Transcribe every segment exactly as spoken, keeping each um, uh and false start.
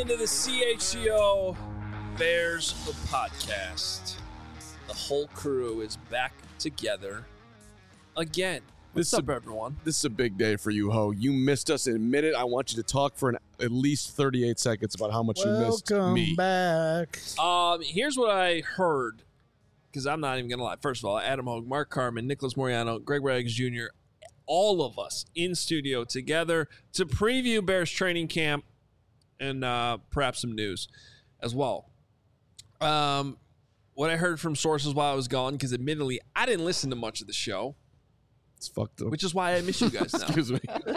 into the C H C O Bears the podcast. The whole crew is back together again. What's This up, is a, everyone? This is a big day for you, Ho. You missed us in a minute. I want you to talk for an, at least thirty-eight seconds about how much Welcome you missed me. back. Um, here's what I heard, because I'm not even gonna lie. First of all, Adam Hogue, Mark Carman, Nicholas Moriano, Greg Braggs Junior, all of us in studio together to preview Bears training camp and uh, perhaps some news as well. Um, what I heard from sources while I was gone, because admittedly I didn't listen to much of the show. It's fucked up. Which is why I miss you guys now. Excuse me.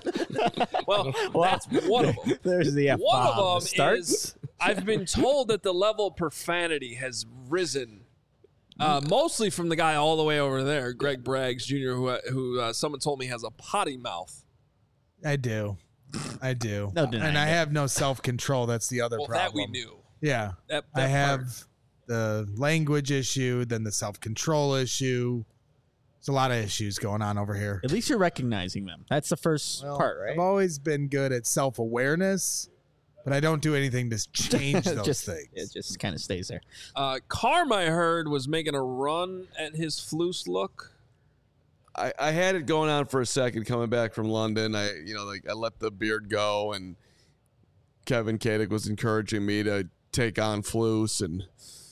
Well, that's one of them. There's the F One bomb. of them Starts. is I've been told that the level of profanity has risen, uh, mostly from the guy all the way over there, Greg Braggs Junior, who who uh, someone told me has a potty mouth. I do. I do. No denying and I it. have no self-control. That's the other Well, problem. that we knew. Yeah. That, I that have part. the language issue, then the self-control issue. There's a lot of issues going on over here. At least you're recognizing them. That's the first Well, part, right? I've always been good at self-awareness, but I don't do anything to change those just, things. It just kind of stays there. Uh, Carm, I heard, was making a run at his Floose look. I, I had it going on for a second coming back from London. I, you know, like I let the beard go, and Kevin Kadick was encouraging me to take on Floose, and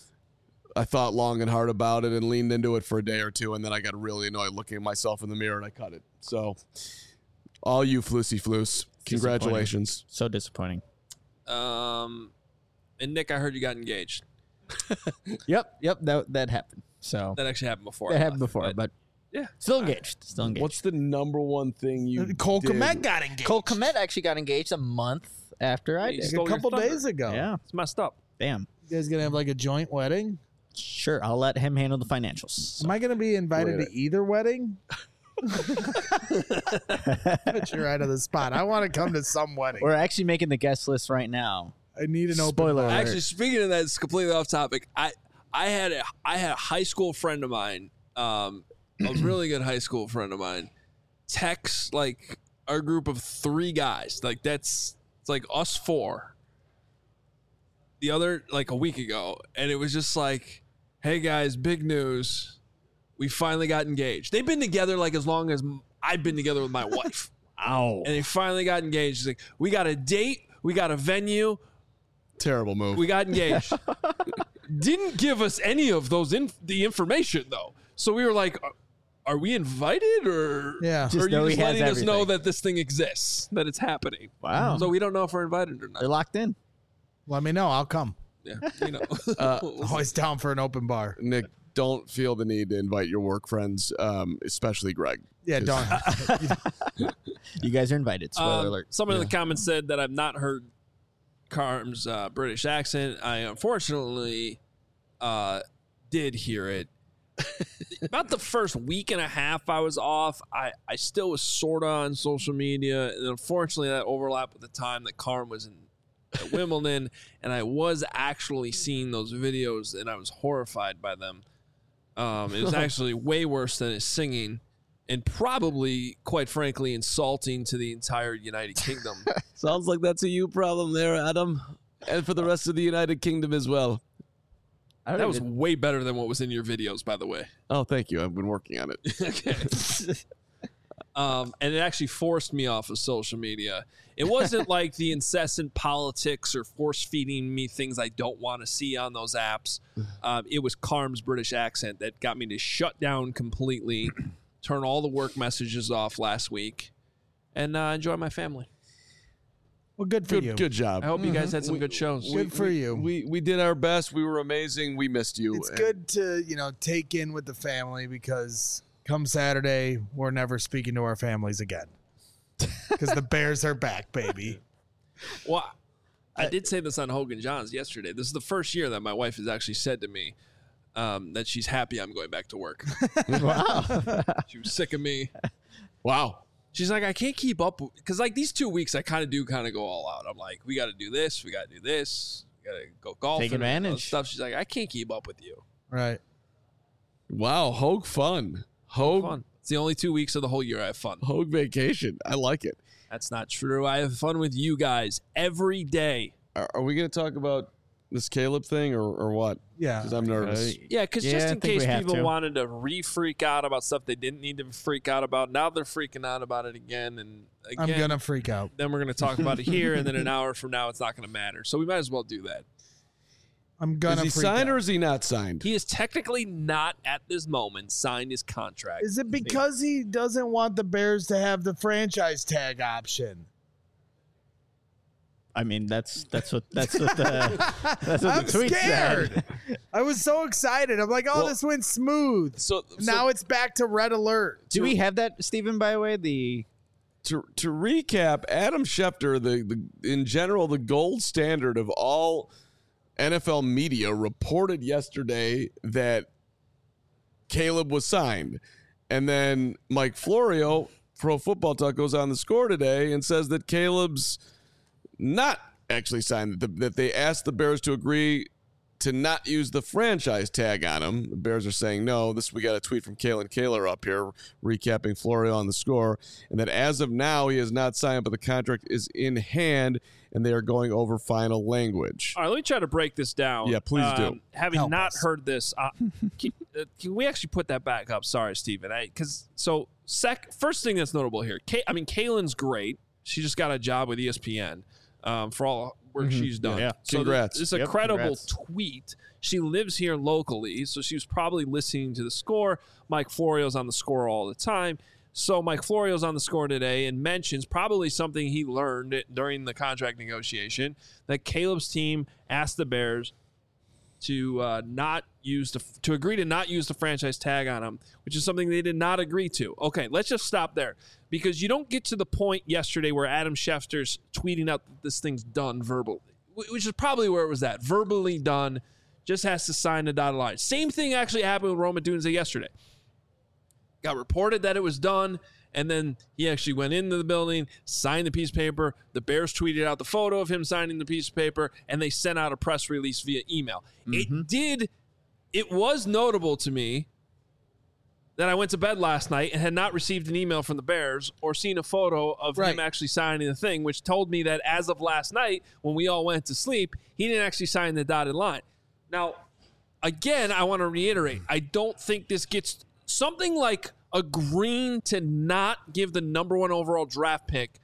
I thought long and hard about it and leaned into it for a day or two, and then I got really annoyed looking at myself in the mirror, and I cut it. So, all you Floosey Floose, congratulations. So disappointing. Um, and Nick, I heard you got engaged. Yep, yep, that that happened. So That actually happened before. that I happened left, before, but yeah, still engaged. Still engaged. What's the number one thing you Cole did? Kmet got engaged Cole Kmet actually got engaged a month after I Hey, did. stole a your couple thunder. days ago. Yeah, it's messed up. damn. You guys going to have like a joint wedding? Sure, I'll let him handle the financials. Am I going to be invited Wait. to either wedding? Put you right on the spot. I want to come to some wedding. We're actually making the guest list right now. I need an open Spoiler bar. alert. Actually, speaking of that, it's completely off topic. I I had a I had a high school friend of mine, um, a really good high school friend of mine, text like our group of three guys. Like that's it's like us four. The other like a week ago, and it was just like, "Hey guys, big news! We finally got engaged." They've been together like as long as I've been together with my wife. Ow. And they finally got engaged. It's like, we got a date, we got a venue, Terrible move. we got engaged. Didn't give us any of those in the information though. So we were like, are, are we invited or Yeah. or Just are you know he just has letting us know everything. that this thing exists, that it's happening? Wow. So we don't know if we're invited or They're not. locked in. Let me know. I'll come. Yeah, you know. Uh, Always down for an open bar. Nick, don't feel the need to invite your work friends, um, especially Greg. Yeah, don't. You guys are invited. Spoiler Um, alert. Someone in the comments said that I've not heard Carm's uh, British accent. I unfortunately uh, did hear it. About the first week and a half I was off, I, I still was sort of on social media. And unfortunately, that overlapped with the time that Carm was in at Wimbledon. And I was actually seeing those videos, and I was horrified by them. Um, it was actually way worse than his singing. And probably, quite frankly, insulting to the entire United Kingdom. Sounds like that's a you problem there, Adam. And for the rest of the United Kingdom as well. I don't That was even- way better than what was in your videos, by the way. Oh, thank you. I've been working on it. Okay. Um, and it actually forced me off of social media. It wasn't like the incessant politics or force feeding me things I don't want to see on those apps. Um, it was Carm's British accent that got me to shut down completely, turn all the work messages off last week, and uh, enjoy my family. Well, good for Good, you. good job. I hope you guys had some We- good shows. Good for we, you. We we did our best. We were amazing. We missed you. It's And good to, you know, take in with the family because come Saturday, we're never speaking to our families again. Because the Bears are back, baby. Well, I did say this on Hogan Johns yesterday. This is the first year that my wife has actually said to me um, that she's happy I'm going back to work. Wow. She was sick of me. Wow. She's like, I can't keep up because like these two weeks, I kind of do kind of go all out. I'm like, we got to do this, we got to do this, we got to go golfing, Take and all that advantage. stuff. She's like, I can't keep up with you. Right. Wow. Hogue fun. Hogue Fun. It's the only two weeks of the whole year I have fun. Hogue vacation. I like it. That's not true. I have fun with you guys every day. are, are we going to talk about this Caleb thing or, or what? Yeah. Because I'm nervous. Uh, Yeah, because Yeah, just I in think case we have people to. wanted to re-freak out about stuff they didn't need to freak out about, now they're freaking out about it again. And again, I'm gonna freak out. then we're going to talk about it here, and then an hour from now, it's not going to matter. So we might as well do that. I'm gonna. Is he freak signed out. or is he not signed? He is technically not at this moment signed his contract. Is it because he doesn't want the Bears to have the franchise tag option? I mean, that's that's what that's what the that's what I'm the tweet scared. said. I was so excited. I'm like, oh, Well, this went smooth. So, so Now it's back to red alert. Do we have that, Stephen? By the way, the to to recap, Adam Schefter, the, the in general the gold standard of all N F L media, reported yesterday that Caleb was signed, and then Mike Florio, Pro Football Talk, goes on the Score today and says that Caleb's not actually signed, that, the, that they asked the Bears to agree to not use the franchise tag on him. The Bears are saying no. This we got a tweet from Kalen Kaler up here recapping Florio on the Score, and that as of now he is not signed, but the contract is in hand, and they are going over final language. All right, let me try to break this down. Yeah, please do. Um, having Help not us. heard this, uh, can, uh, can we actually put that back up? Sorry, Steven. Because so sec, first thing that's notable here, Kay, I mean, Kaylin's great. She just got a job with E S P N um, for all work Mhm. she's done. Yeah. So Congrats. This is a Yep, credible congrats. tweet. She lives here locally, so she was probably listening to the Score. Mike Florio's on the Score all the time. So Mike Florio's on the Score today and mentions probably something he learned during the contract negotiation, that Caleb's team asked the Bears to uh, not use the to agree to not use the franchise tag on him, which is something they did not agree to. Okay, let's just stop there, because you don't get to the point yesterday where Adam Schefter's tweeting out that this thing's done verbally, wh- which is probably where it was at, verbally done, just has to sign the dotted line. Same thing actually happened with Roman Dunze yesterday. Got reported that it was done, and then he actually went into the building, signed the piece of paper. The Bears tweeted out the photo of him signing the piece of paper, and they sent out a press release via email. It did, it was notable to me that I went to bed last night and had not received an email from the Bears or seen a photo of Right. him actually signing the thing, which told me that as of last night, when we all went to sleep, he didn't actually sign the dotted line. Now, again, I want to reiterate, I don't think this gets something like agreeing to not give the number one overall draft pick,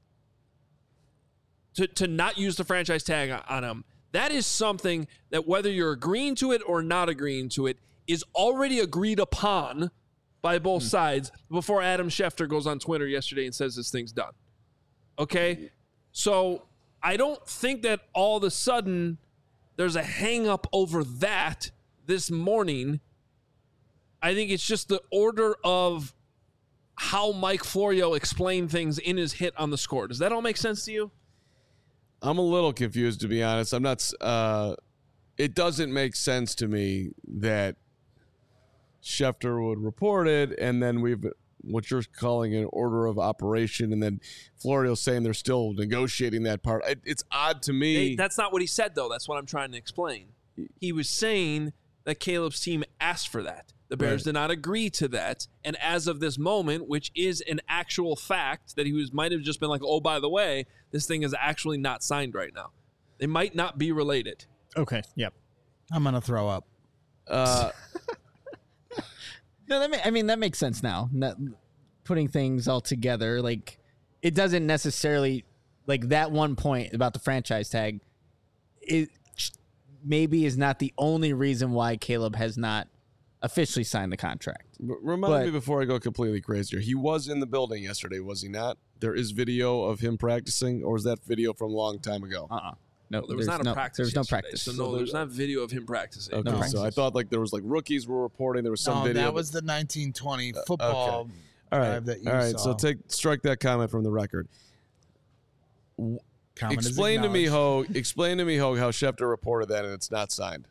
to, to not use the franchise tag on him. That is something that, whether you're agreeing to it or not agreeing to it, is already agreed upon by both sides before Adam Schefter goes on Twitter yesterday and says this thing's done. Okay? So I don't think that all of a sudden there's a hang up over that this morning. I think it's just the order of how Mike Florio explained things in his hit on the Score. Does that all make sense to you? I'm a little confused, to be honest. I'm not. Uh, it doesn't make sense to me that Schefter would report it, and then we've what you're calling an order of operation, and then Florio's saying they're still negotiating that part. It, it's odd to me. Hey, that's not what he said, though. That's what I'm trying to explain. He was saying that Caleb's team asked for that. The Bears Right. did not agree to that. And as of this moment, which is an actual fact, that he was might have just been like, oh, by the way, this thing is actually not signed right now. They might not be related. Okay. Yep. I'm gonna throw up. uh, No, that ma- I mean that makes sense now. Not putting things all together, like it doesn't necessarily like that one point about the franchise tag. It maybe is not the only reason why Caleb has not officially signed the contract. r- remind But- me before I go completely crazy here. He was in the building yesterday, was he not? There is video of him practicing, or is that video from a long time ago? Uh uh No, There was there's not a no, practice. There's no yesterday, practice. So, no, there's not video of him practicing. Okay, No so I practices. thought like there was like rookies were reporting. There was some No, video. that but- was the nineteen twenty football all right, drive that you all right. saw. So take strike that comment from the record. Comment is Explain to me, acknowledged. Hogue. Explain to me, Hogue, how Schefter reported that and it's not signed.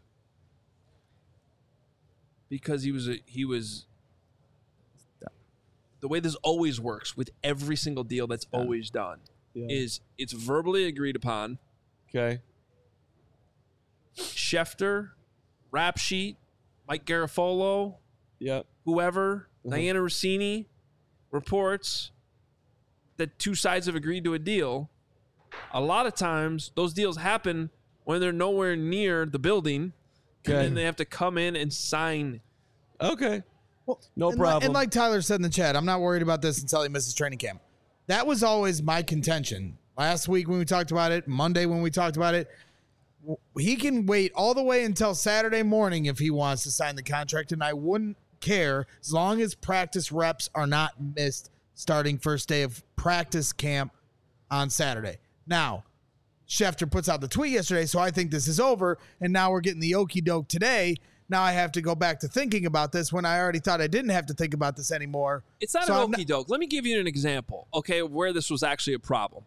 Because he was a, he was the way this always works with every single deal that's always done is it's verbally agreed upon. Okay. Schefter, Rap Sheet, Mike Garafolo, Yep. whoever, Mhm. Diana Rossini reports that two sides have agreed to a deal, A lot of times, those deals happen when they're nowhere near the building, Okay. and then they have to come in and sign. Okay. Well, No and problem. Like, and like Tyler said in the chat, I'm not worried about this until he misses training camp. That was always my contention. Last week when we talked about it, Monday when we talked about it, w- he can wait all the way until Saturday morning if he wants to sign the contract, and I wouldn't care as long as practice reps are not missed starting first day of practice camp on Saturday. Now, Schefter puts out the tweet yesterday, so I think this is over, and now we're getting the okie doke today. Now I have to go back to thinking about this when I already thought I didn't have to think about this anymore. It's not So an I'm not- okie doke. Let me give you an example, okay, of where this was actually a problem.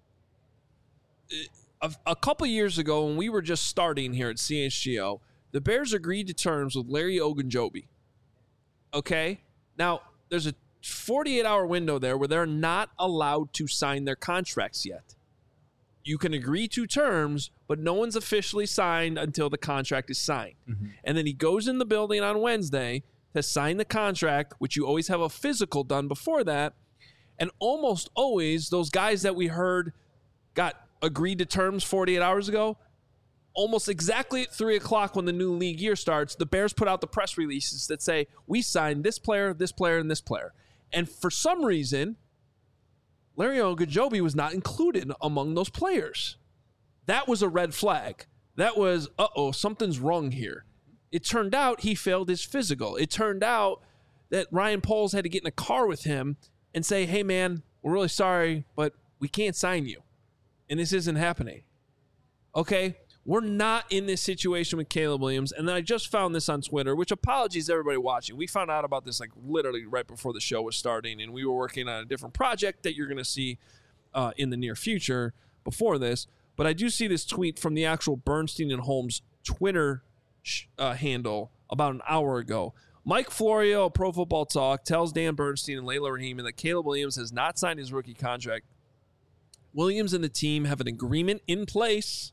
A, a couple years ago, when we were just starting here at C H G O, the Bears agreed to terms with Larry Ogunjobi. Okay? Now, there's a forty-eight hour window there where they're not allowed to sign their contracts yet. You can agree to terms, but no one's officially signed until the contract is signed. Mm-hmm. And then he goes in the building on Wednesday to sign the contract, which you always have a physical done before that. And almost always, those guys that we heard got agreed to terms forty-eight hours ago, almost exactly at three o'clock when the new league year starts, the Bears put out the press releases that say, we signed this player, this player, and this player. And for some reason, Larry Ogunjobi was not included among those players. That was a red flag. That was, uh-oh, something's wrong here. It turned out he failed his physical. It turned out that Ryan Poles had to get in a car with him and say, hey, man, we're really sorry, but we can't sign you. And this isn't happening. Okay? We're not in this situation with Caleb Williams. And then I just found this on Twitter, which apologies to everybody watching. We found out about this like literally right before the show was starting, and we were working on a different project that you're going to see uh, in the near future before this. But I do see this tweet from the actual Bernstein and Holmes Twitter sh- uh, handle about an hour ago. Mike Florio of Pro Football Talk tells Dan Bernstein and Layla Raheem that Caleb Williams has not signed his rookie contract. Williams and the team have an agreement in place,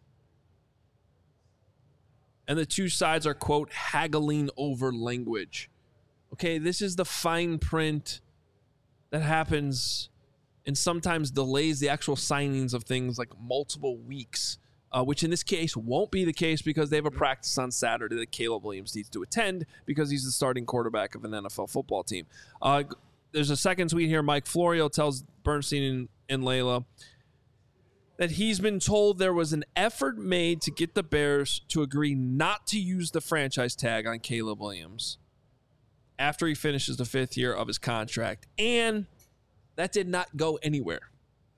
and the two sides are, quote, haggling over language. Okay, this is the fine print that happens and sometimes delays the actual signings of things like multiple weeks, uh, which in this case won't be the case because they have a practice on Saturday that Caleb Williams needs to attend because he's the starting quarterback of an N F L football team. Uh, there's a second tweet here. Mike Florio tells Bernstein and, and Layla that he's been told there was an effort made to get the Bears to agree not to use the franchise tag on Caleb Williams after he finishes the fifth year of his contract. And that did not go anywhere.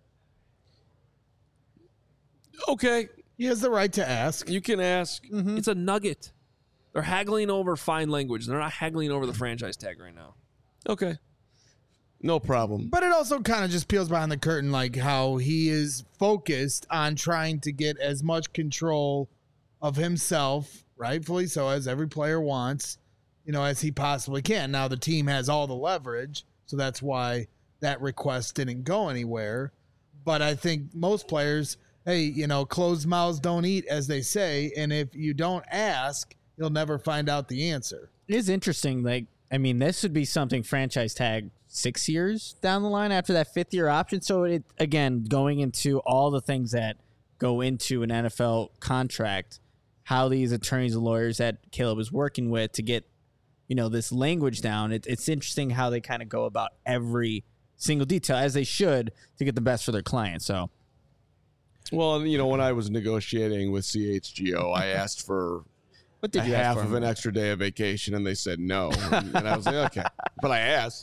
Okay. He has the right to ask. You can ask. It's a nugget. They're haggling over fine language. They're not haggling over the franchise tag right now. Okay. No problem. But it also kind of just peels behind the curtain, like how he is focused on trying to get as much control of himself, rightfully so, as every player wants, you know, as he possibly can. Now the team has all the leverage, so that's why that request didn't go anywhere. But I think most players, hey, you know, closed mouths don't eat, as they say, and if you don't ask, you'll never find out the answer. It is interesting. Like, I mean, this would be something franchise tag six years down the line after that fifth year option. So it, again, going into all the things that go into an N F L contract, how these attorneys and lawyers that Caleb is working with to get, you know, this language down. It, it's interesting how they kind of go about every single detail, as they should, to get the best for their client. So, Well, you know, when I was negotiating with C H G O, I asked for what did a you half ask for? of an extra day of vacation, and they said no. And, and I was like, okay. But I asked.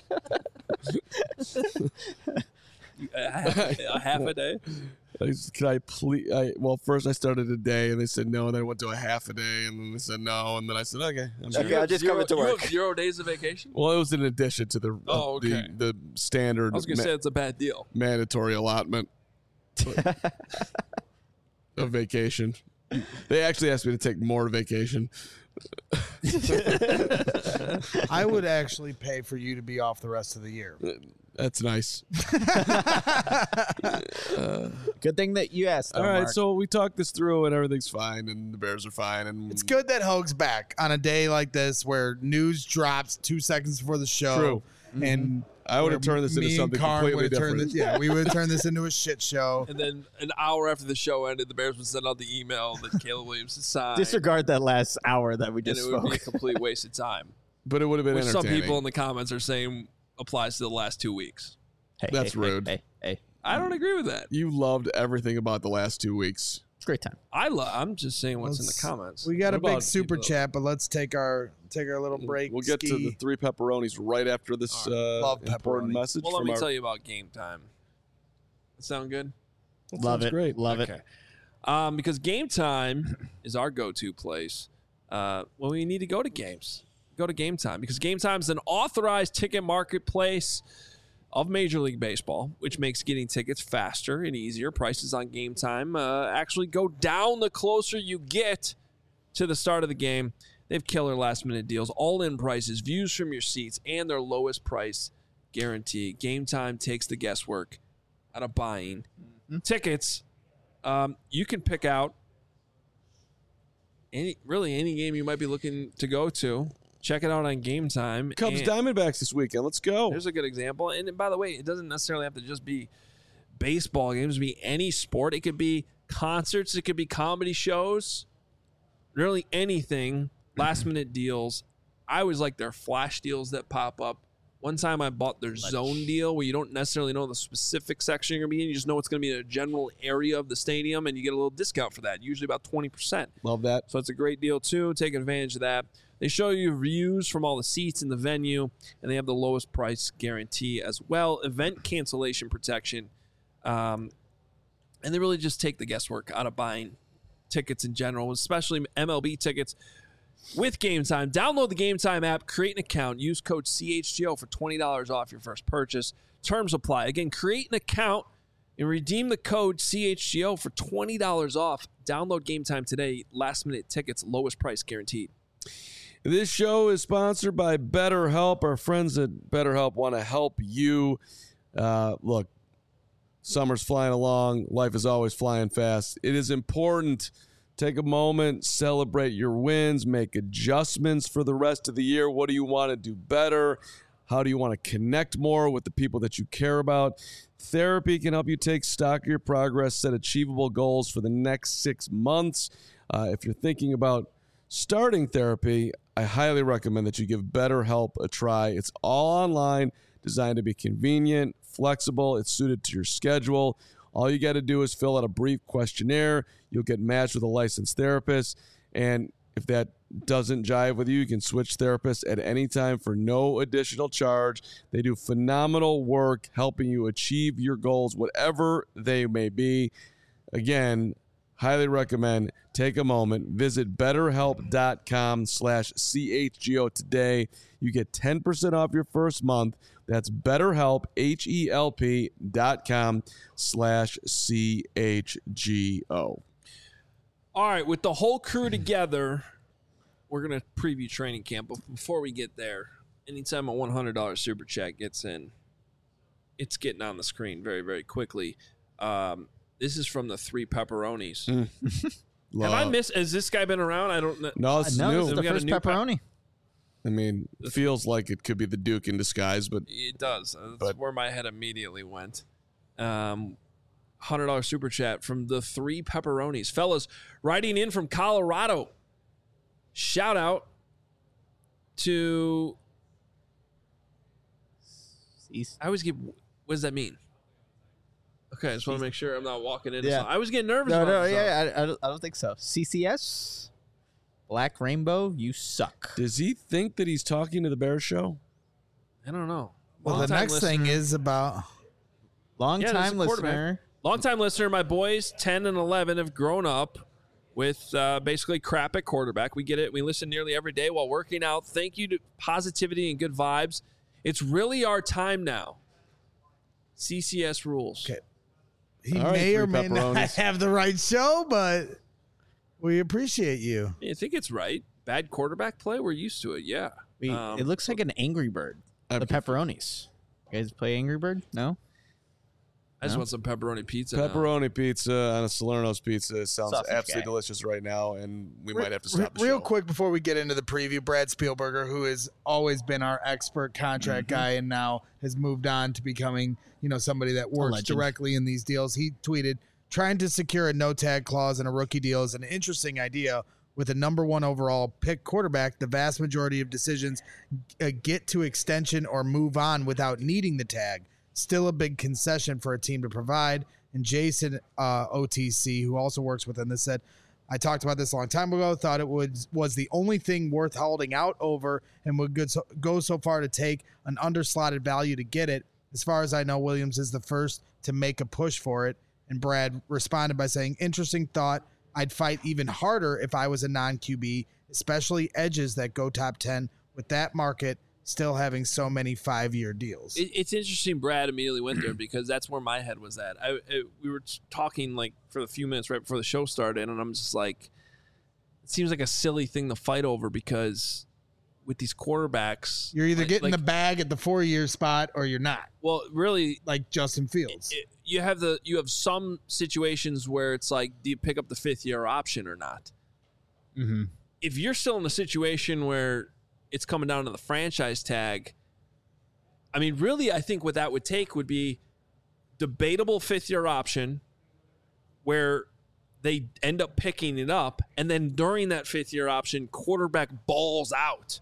A half, a half a day? I said, Can I please? I, well, first I started a day, and they said no. And then I went to a half a day, and then they said no. And then I said, okay. I'm Okay, good. I'll just zero, come into you work. have zero days of vacation? Well, it was in addition to the Oh, okay. the, the standard I was going to ma- say it's a bad deal. mandatory allotment of vacation. They actually asked me to take more vacation. I would actually pay for you to be off the rest of the year. That's nice. Good thing that you asked. All though, right, Mark. so we talked this through, and everything's fine, and the Bears are fine, and It's good that Hoag's back on a day like this where news drops two seconds before the show. True. and I would have where turned this into me and something Carm completely would've turned different. This, yeah, we would have turned this into a shit show. And then an hour after the show ended, the Bears would send out the email that Caleb Williams had signed. Disregard that last hour that we and just it would spoke. be a complete waste of time. But it would have been Which some entertaining. people in the comments are saying applies to the last two weeks. Hey, That's hey, rude. Hey, hey, hey, I don't agree with that. You loved everything about the last two weeks. it's a great time. I love. I'm just saying what's Let's- in the comments. We got What a big about super people? chat, but let's take our take our little break. We'll get to ski. the three pepperonis right after this All uh, Love important pepperoni. message well, let from me our. tell you about game time. That sound good? That Love sounds it. Great. Love Okay. it. Um, because game time is our go-to place uh, when we need to go to games. Go to Game Time because Game Time is an authorized ticket marketplace of Major League Baseball, which makes getting tickets faster and easier. Prices on Game Time uh, actually go down the closer you get to the start of the game. They have killer last-minute deals, all-in prices, views from your seats, and their lowest price guarantee. Game Time takes the guesswork out of buying mm-hmm. tickets. Um, you can pick out any really any game you might be looking to go to. Check it out on Game Time. Cubs And Diamondbacks this weekend. Let's go. Here's a good example. And by the way, it doesn't necessarily have to just be baseball games. It could be any sport. It could be concerts. It could be comedy shows. Really anything. Last minute deals. I always like their flash deals that pop up. One time I bought their zone deal where you don't necessarily know the specific section you're going to be in. You just know it's going to be in a general area of the stadium, and you get a little discount for that, usually about twenty percent. Love that. So it's a great deal, too. Take advantage of that. They show you views from all the seats in the venue, and they have the lowest price guarantee as well. Event cancellation protection. Um, and they really just take the guesswork out of buying tickets in general, especially M L B tickets. With Game Time, download the Game Time app, create an account, use code C H G O for twenty dollars off your first purchase. Terms apply. Again, create an account and redeem the code C H G O for twenty dollars off. Download Game Time today. Last minute tickets, lowest price guaranteed. This show is sponsored by BetterHelp. Our friends at BetterHelp want to help you. Uh, look, summer's flying along. Life is always flying fast. It is important. Take a moment, celebrate your wins, make adjustments for the rest of the year. What do you want to do better? How do you want to connect more with the people that you care about? Therapy can help you take stock of your progress, set achievable goals for the next six months. Uh, if you're thinking about starting therapy, I highly recommend that you give BetterHelp a try. It's all online, designed to be convenient, flexible. It's suited to your schedule. All you got to do is fill out a brief questionnaire. You'll get matched with a licensed therapist. And if that doesn't jive with you, you can switch therapists at any time for no additional charge. They do phenomenal work helping you achieve your goals, whatever they may be. Again, highly recommend. Take a moment. Visit betterhelp.com slash CHGO today. You get ten percent off your first month. That's BetterHelp, H-E-L-P dot com slash C-H-G-O. All right, with the whole crew together, we're going to preview training camp. But before we get there, anytime a one hundred dollars super chat gets in, it's getting on the screen very, very quickly. Um, this is from the Three Pepperonis. Have I missed? Has this guy been around? I don't know. No, it's no, new. it's the We got a first new pep- pepperoni. I mean, it feels like it could be the Duke in disguise, but It does. That's But- where my head immediately went. Um, one hundred dollars super chat from the Three Pepperonis. Fellas, writing in from Colorado. Shout out to... East. I always get... What does that mean? Okay, I just want to make sure I'm not walking into Yeah. something. I was getting nervous No, about no, this. yeah, I, I, don't, I don't think so. C C S, Black Rainbow, you suck. does he think that he's talking to the Bears show? I don't know. Well, the Long-time next thing listener- is about Long Yeah, there's time a quarterback. listener. Long-time listener, my boys, ten and eleven, have grown up with uh, basically crap at quarterback. We get it. We listen nearly every day while working out. Thank you to positivity and good vibes. It's really our time now. C C S rules. Okay. he All right, may or Three may not Pepperonis. have the right show, but we appreciate you. I think it's right. Bad quarterback play. We're used to it. Yeah. We, Um, it looks like an Angry Bird. I The prefer- pepperonis. You guys play Angry Bird? No? I just No? want some pepperoni pizza. now. Pepperoni pizza on a Salerno's pizza sounds Sausage absolutely guy. delicious right now, and we might have to Re- stop the real show. quick before we get into the preview, Brad Spielberger, who has always been our expert contract Mm-hmm. guy and now has moved on to becoming, you know, somebody that works legend. directly in these deals. He tweeted, trying to secure a no tag clause in a rookie deal is an interesting idea. With a number one overall pick quarterback, the vast majority of decisions uh, get to extension or move on without needing the tag. Still a big concession for a team to provide. And Jason uh, O T C, who also works within this, said, I talked about this a long time ago, thought it would, was the only thing worth holding out over and would good so, go so far to take an underslotted value to get it. As far as I know, Williams is the first to make a push for it. And Brad responded by saying, interesting thought. I'd fight even harder if I was a non-Q B, especially edges that go top ten with that market still having so many five-year deals. It, it's interesting. Brad immediately went there because that's where my head was at. I it, we were talking like for a few minutes right before the show started, and I'm just like, it seems like a silly thing to fight over because with these quarterbacks, You're either like- getting like, the bag at the four-year spot or you're not, well, really, like Justin Fields. it, you have the you have some situations where it's like, do you pick up the fifth year option or not? Mm-hmm. If you're still in a situation where it's coming down to the franchise tag, I mean, really, I think what that would take would be debatable fifth year option where they end up picking it up, and then during that fifth year option, quarterback balls out.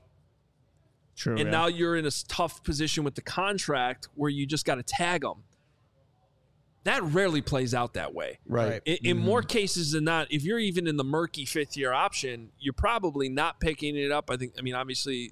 True. And now you're in a s- tough position with the contract where you just got to tag them. That rarely plays out that way. Right. Right. In, in more cases than not, if you're even in the murky fifth year option, you're probably not picking it up. I think, I mean, obviously,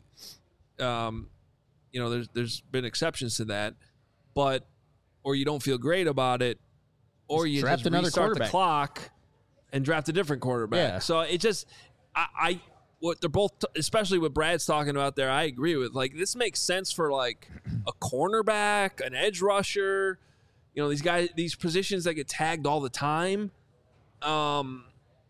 um, you know, there's there's been exceptions to that, but or you don't feel great about it, or Just you draft just another restart the quarterback. clock and draft a different quarterback. Yeah. So it just, I, I what they're both, especially what Brad's talking about there, I agree with. Like, this makes sense for like a cornerback, an edge rusher. You know, these guys, these positions that get tagged all the time. Um,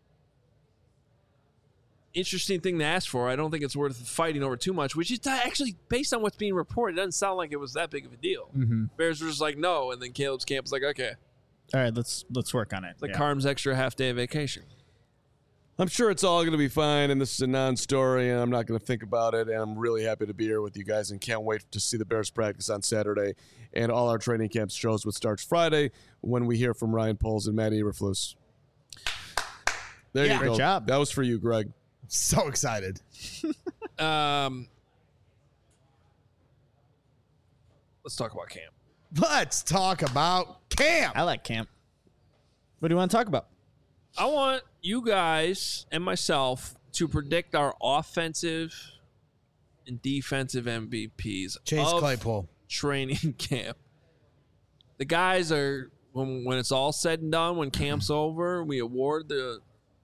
interesting thing to ask for. I don't think it's worth fighting over too much, which is actually based on what's being reported. It doesn't sound like it was that big of a deal. Mm-hmm. Bears were just like, no. And then Caleb's camp was like, okay. All right, let's let's work on it. It's like Yeah. Carm's extra half day of vacation. I'm sure it's all going to be fine, and this is a non-story, and I'm not going to think about it, and I'm really happy to be here with you guys and can't wait to see the Bears practice on Saturday and all our training camp shows, which starts Friday when we hear from Ryan Poles and Matt Eberflus. There Yeah. you Great go. job. That was for you, Greg. So excited. Um, let's talk about camp. Let's talk about camp. I like camp. What do you want to talk about? I want you guys and myself to predict our offensive and defensive M V Ps Chase of Claypool. training camp. The guys are when when it's all said and done, when camp's over, we award the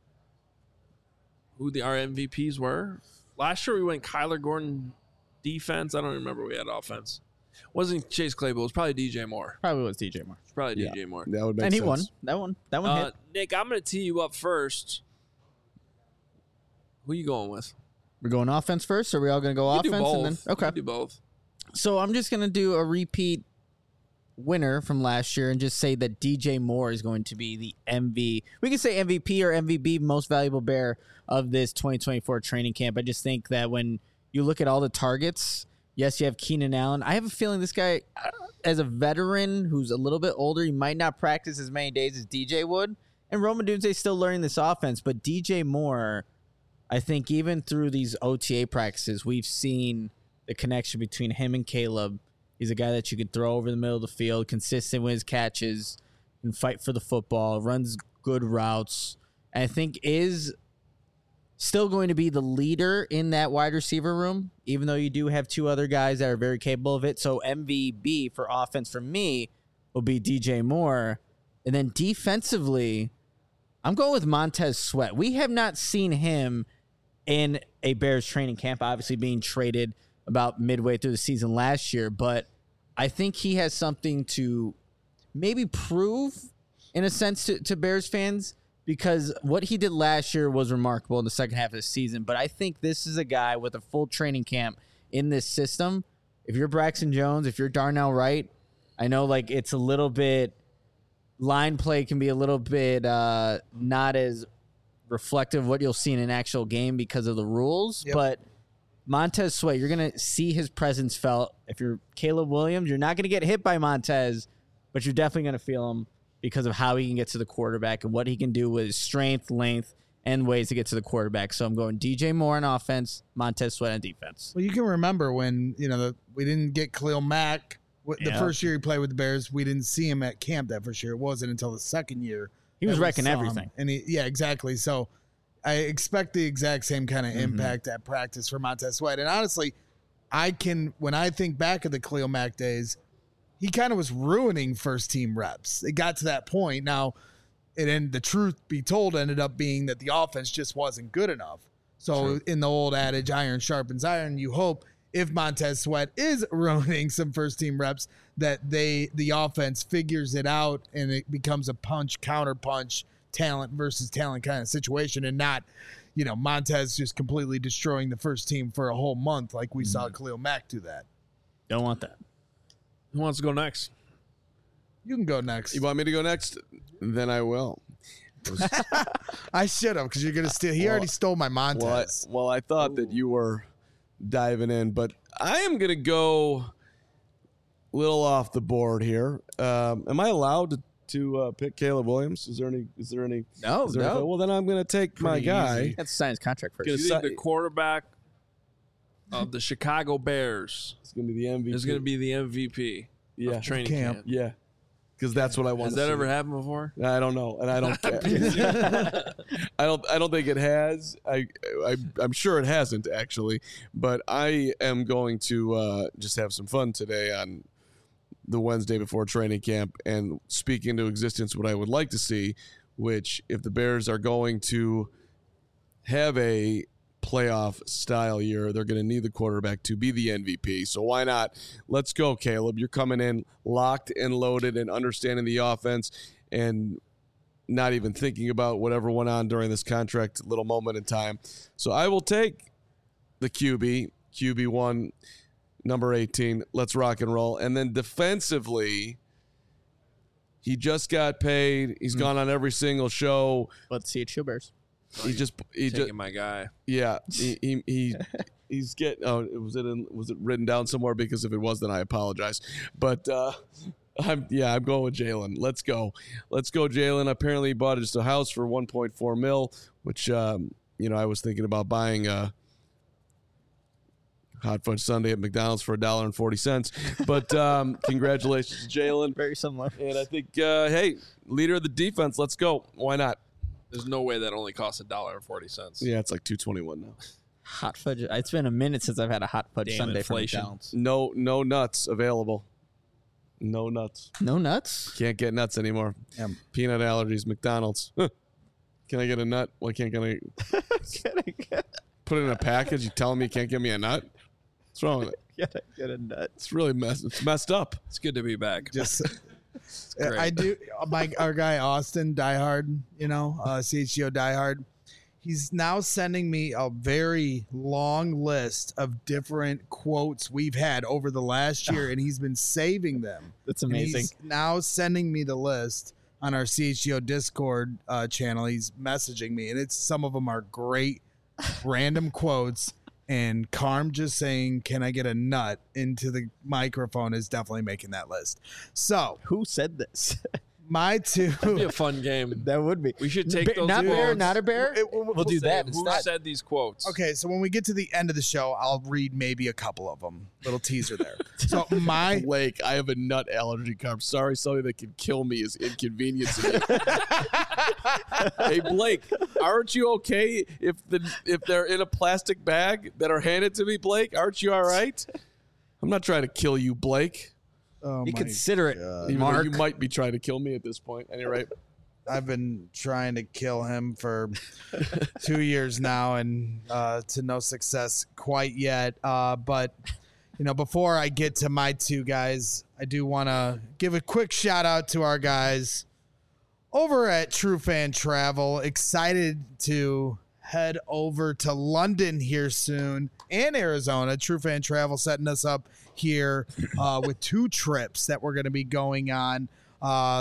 who the our M V Ps were. Last year we went Kyler Gordon defense. I don't remember we had offense. Wasn't Chase Claypool? It was probably D J Moore. Probably was D J Moore. It's probably Yeah. D J Moore. That would make And he sense. won. That one. That one Uh, hit. Nick, I'm going to tee you up first. Who you going with? We're going offense first, or are we all going to go You offense do both. and then You okay. can do both. So I'm just going to do a repeat winner from last year and just say that D J Moore is going to be the M V. We can say M V P or M V B, most valuable bear of this twenty twenty-four training camp. I just think that when you look at all the targets, yes, you have Keenan Allen. I have a feeling this guy, uh, as a veteran who's a little bit older, he might not practice as many days as D J would. And Roman Dunze's still learning this offense, but D J Moore, I think even through these O T A practices, we've seen the connection between him and Caleb. He's a guy that you could throw over the middle of the field, consistent with his catches, and fight for the football, runs good routes. And I think is still going to be the leader in that wide receiver room, even though you do have two other guys that are very capable of it. So M V B for offense for me will be D J Moore. And then defensively, I'm going with Montez Sweat. We have not seen him in a Bears training camp, obviously being traded about midway through the season last year, but I think he has something to maybe prove in a sense to, to Bears fans, because what he did last year was remarkable in the second half of the season. But I think this is a guy with a full training camp in this system. If you're Braxton Jones, if you're Darnell Wright, I know like it's a little bit line play can be a little bit uh, not as reflective of what you'll see in an actual game because of the rules. Yep. But Montez Sweat, you're going to see his presence felt. If you're Caleb Williams, you're not going to get hit by Montez, but you're definitely going to feel him because of how he can get to the quarterback and what he can do with his strength, length, and ways to get to the quarterback. So I'm going D J Moore on offense, Montez Sweat on defense. Well, you can remember when, you know, the, we didn't get Khalil Mack the Yeah. first year he played with the Bears. We didn't see him at camp that first year. It wasn't until the second year. He was that we wrecking saw him. everything. And he, yeah, exactly. So I expect the exact same kind of Mhm. impact at practice for Montez Sweat. And honestly, I can, when I think back of the Khalil Mack days, he kind of was ruining first team reps. It got to that point. Now, it ended, the truth be told, ended up being that the offense just wasn't good enough. So True. in the old adage, iron sharpens iron, you hope if Montez Sweat is ruining some first team reps, that they the offense figures it out and it becomes a punch, counter punch, talent versus talent kind of situation, and not, you know, Montez just completely destroying the first team for a whole month like we saw Khalil Mack do that. Don't want that. Who wants to go next? You can go next. You want me to go next? Then I will. I should have, because you're gonna steal. He Well, already stole my Montez. Well, I, well, I thought that you were diving in, but I am going to go a little off the board here. Um, am I allowed to, to uh, pick Caleb Williams? Is there any? Is there any? No, is there no. any- well, then I'm going to take my Pretty guy. easy. That's sign his contract first. Do you Good think si- the quarterback of the Chicago Bears It's going to be the M V P. is going to be the M V P yeah, of training Camp. camp? yeah, because that's what I want. Has that ever happened before? I don't know, and I don't care. I don't. I don't think it has. I, I. I'm sure it hasn't actually, but I am going to uh, just have some fun today on the Wednesday before training camp and speak into existence what I would like to see. Which, if the Bears are going to have a playoff style year, they're going to need the quarterback to be the M V P. So why not? Let's go, Caleb. You're coming in locked and loaded and understanding the offense and not even thinking about whatever went on during this contract little moment in time. So I will take the Q B, Q B one, number eighteen. Let's rock and roll. And then defensively, he just got paid. He's gone on every single show. Let's see it, Chill Bears. He just he Taking just my guy. yeah, he he, he he's get oh was it in, was it written down somewhere? Because if it was, then I apologize. But uh, I'm yeah, I'm going with Jalen. Let's go, let's go, Jalen. Apparently, he bought just a house for one point four mil, which um, you know I was thinking about buying a hot fudge sundae at McDonald's for a dollar and forty cents. But um, congratulations, Jalen. Very similar. And I think uh, hey, leader of the defense. Let's go. Why not? There's no way that only costs a dollar and forty cents. Yeah, it's like two twenty one now. Hot fudge. It's been a minute since I've had a hot fudge Damn sundae from inflation. McDonald's. No, no nuts available. No nuts. No nuts. Can't get nuts anymore. Yeah. Peanut allergies. McDonald's. Huh. Can I get a nut? Why can't can I put it in a package? You telling me you can't give me a nut? What's wrong with it? Get a, get a nut. It's really messed. It's messed up. It's good to be back. Just great. I do my our guy Austin Diehard, you know, uh, C H G O Diehard. He's now sending me a very long list of different quotes we've had over the last year, and he's been saving them. That's And amazing. he's now sending me the list on our C H G O Discord uh, channel. He's messaging me, and it's some of them are great random quotes. And Carm just saying, "Can I get a nut?" into the microphone is definitely making that list. So Who said this? my two. It'd be a fun game. That would be. We should take Ba- those not quotes. bear, not a bear. It- we'll- we'll do Say, that Who instead. said these quotes? Okay, so when we get to the end of the show, I'll read maybe a couple of them. Little teaser there. So my Blake, I have a nut allergy. I'm sorry, something that can kill me is inconveniencing you. Hey, Blake, aren't you okay if the if they're in a plastic bag that are handed to me, Blake? Aren't you all right? I'm not trying to kill you, Blake. oh Be my considerate, Even Mark. though you might be trying to kill me at this point. At any rate, I've been trying to kill him for two years now, and uh, to no success quite yet. Uh, but you know, before I get to my two guys, I do want to give a quick shout out to our guys over at True Fan Travel. Excited to head over to London here soon and Arizona. True Fan Travel setting us up here uh, with two trips that we're going to be going on. Uh,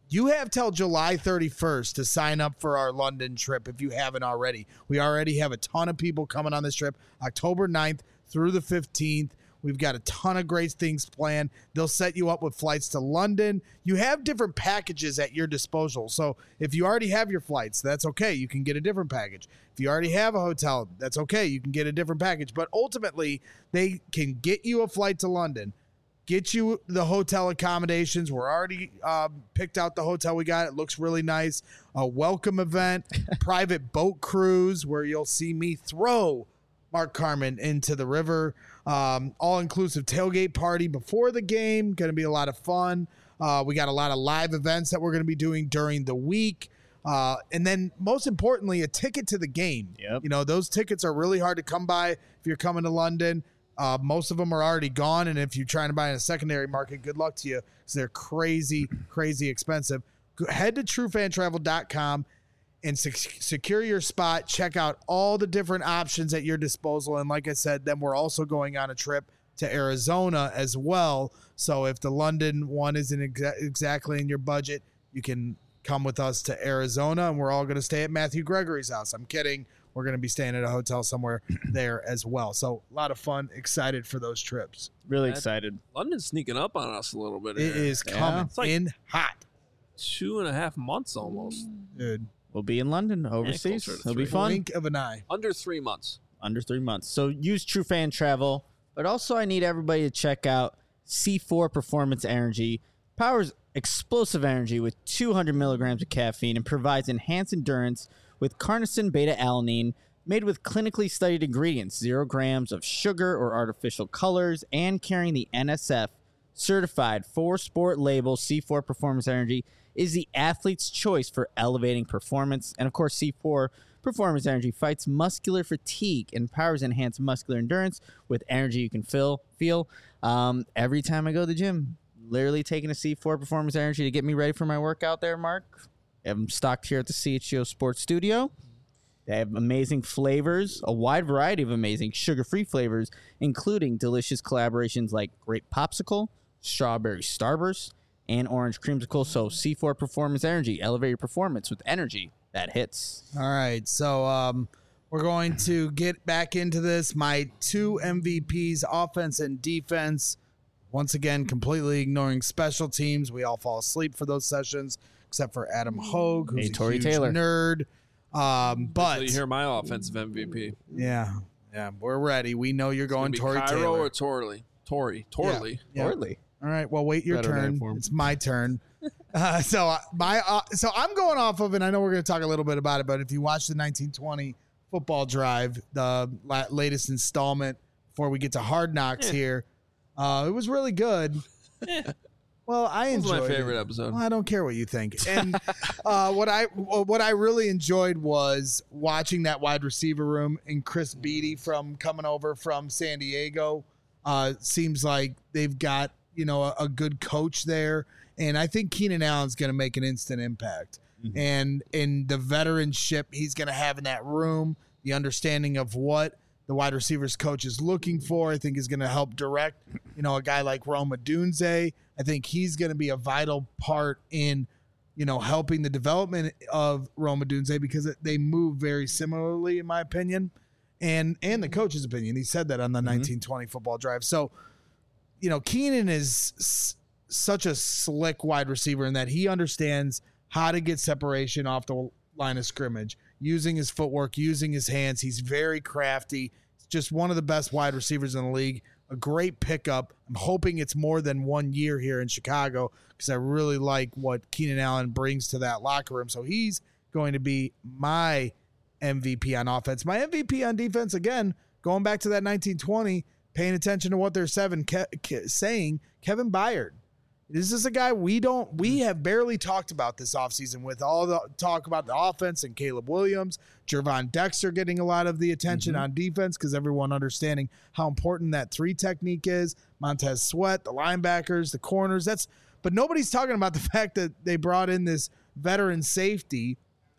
You have till July thirty-first to sign up for our London trip if you haven't already. We already have a ton of people coming on this trip, October ninth through the fifteenth. We've got a ton of great things planned. They'll set you up with flights to London. You have different packages at your disposal. So if you already have your flights, that's okay. You can get a different package. If you already have a hotel, that's okay. You can get a different package. But ultimately, they can get you a flight to London, get you the hotel accommodations. We're already uh, picked out the hotel we got. It looks really nice. A welcome event, private boat cruise where you'll see me throw Mark Carman into the river. Um, all-inclusive tailgate party before the game. Going to be a lot of fun. Uh, we got a lot of live events that we're going to be doing during the week. Uh, and then most importantly, a ticket to the game. Yep. You know, those tickets are really hard to come by if you're coming to London. Uh, most of them are already gone. And if you're trying to buy in a secondary market, good luck to you because they're crazy, crazy expensive. Go, head to true fan travel dot com and sec- secure your spot. Check out all the different options at your disposal. And like I said, then we're also going on a trip to Arizona as well. So if the London one isn't exa- exactly in your budget, you can come with us to Arizona, and we're all going to stay at Matthew Gregory's house. I'm kidding. We're going to be staying at a hotel somewhere there as well. So a lot of fun. Excited for those trips. Really That- excited. London's sneaking up on us a little bit. It here. is Yeah. coming It's like- in hot, two and a half months almost. dude. We'll be in London overseas. closer to It'll be three. fun. Blink of an eye. Under three months. Under three months. So use True Fan Travel, but also I need everybody to check out C four Performance Energy. Powers explosive energy with two hundred milligrams of caffeine and provides enhanced endurance with carnosine beta-alanine, made with clinically studied ingredients, zero grams of sugar or artificial colors, and carrying the N S F certified four sport label. C four Performance Energy is the athlete's choice for elevating performance. And of course, C four Performance Energy fights muscular fatigue and powers enhanced muscular endurance with energy you can feel. Feel um, every time I go to the gym. Literally taking a C four Performance Energy to get me ready for my workout there, Mark. I have them stocked here at the C H G O Sports Studio. They have amazing flavors, a wide variety of amazing sugar-free flavors, including delicious collaborations like grape popsicle, strawberry starburst, and orange creamsicle. So C four Performance Energy, elevate your performance with energy that hits. All right, so um, we're going to get back into this. My two M V Ps, offense and defense. Once again, completely ignoring special teams. We all fall asleep for those sessions, except for Adam Hogue, who's Hey, a Tory huge Taylor. nerd. Um, So but you hear my offensive M V P. yeah, yeah, we're ready. We know you're going It's gonna Tory be Cairo Taylor. or Torley? Tory. Torley. Yeah. Hardly. All right, well, wait your Better name turn. for him. It's my turn. Uh, so uh, my uh, so I'm going off of, and I know we're going to talk a little bit about it, but if you watch the nineteen twenty Football Drive, the la- latest installment before we get to Hard Knocks Eh. here, uh, it was really good. Eh. Well, I That was enjoyed my favorite it. episode. Well, I don't care what you think. And uh, what I what I really enjoyed was watching that wide receiver room and Chris Beatty from coming over from San Diego. Uh, seems like they've got, you know, a, a good coach there, and I think Keenan Allen's going to make an instant impact. Mhm. And in the veteranship he's going to have in that room, the understanding of what the wide receivers coach is looking for, I think is going to help direct, you know, a guy like Rome Odunze. I think he's going to be a vital part in, you know, helping the development of Rome Odunze because it, they move very similarly, in my opinion, and and the coach's opinion. He said that on the nineteen twenty Football Drive. So, you know, Keenan is s- such a slick wide receiver in that he understands how to get separation off the line of scrimmage, using his footwork, using his hands. He's very crafty. He's just one of the best wide receivers in the league. A great pickup. I'm hoping it's more than one year here in Chicago because I really like what Keenan Allen brings to that locker room. So he's going to be my M V P on offense. My M V P on defense, again, going back to that nineteen twenty, paying attention to what they're seven Ke- Ke- saying, Kevin Byard. This is a guy we don't, we have barely talked about this offseason with all the talk about the offense and Caleb Williams, Jervon Dexter getting a lot of the attention Mhm. on defense because everyone understanding how important that three technique is. Montez Sweat, the linebackers, the corners. That's, but nobody's talking about the fact that they brought in this veteran safety,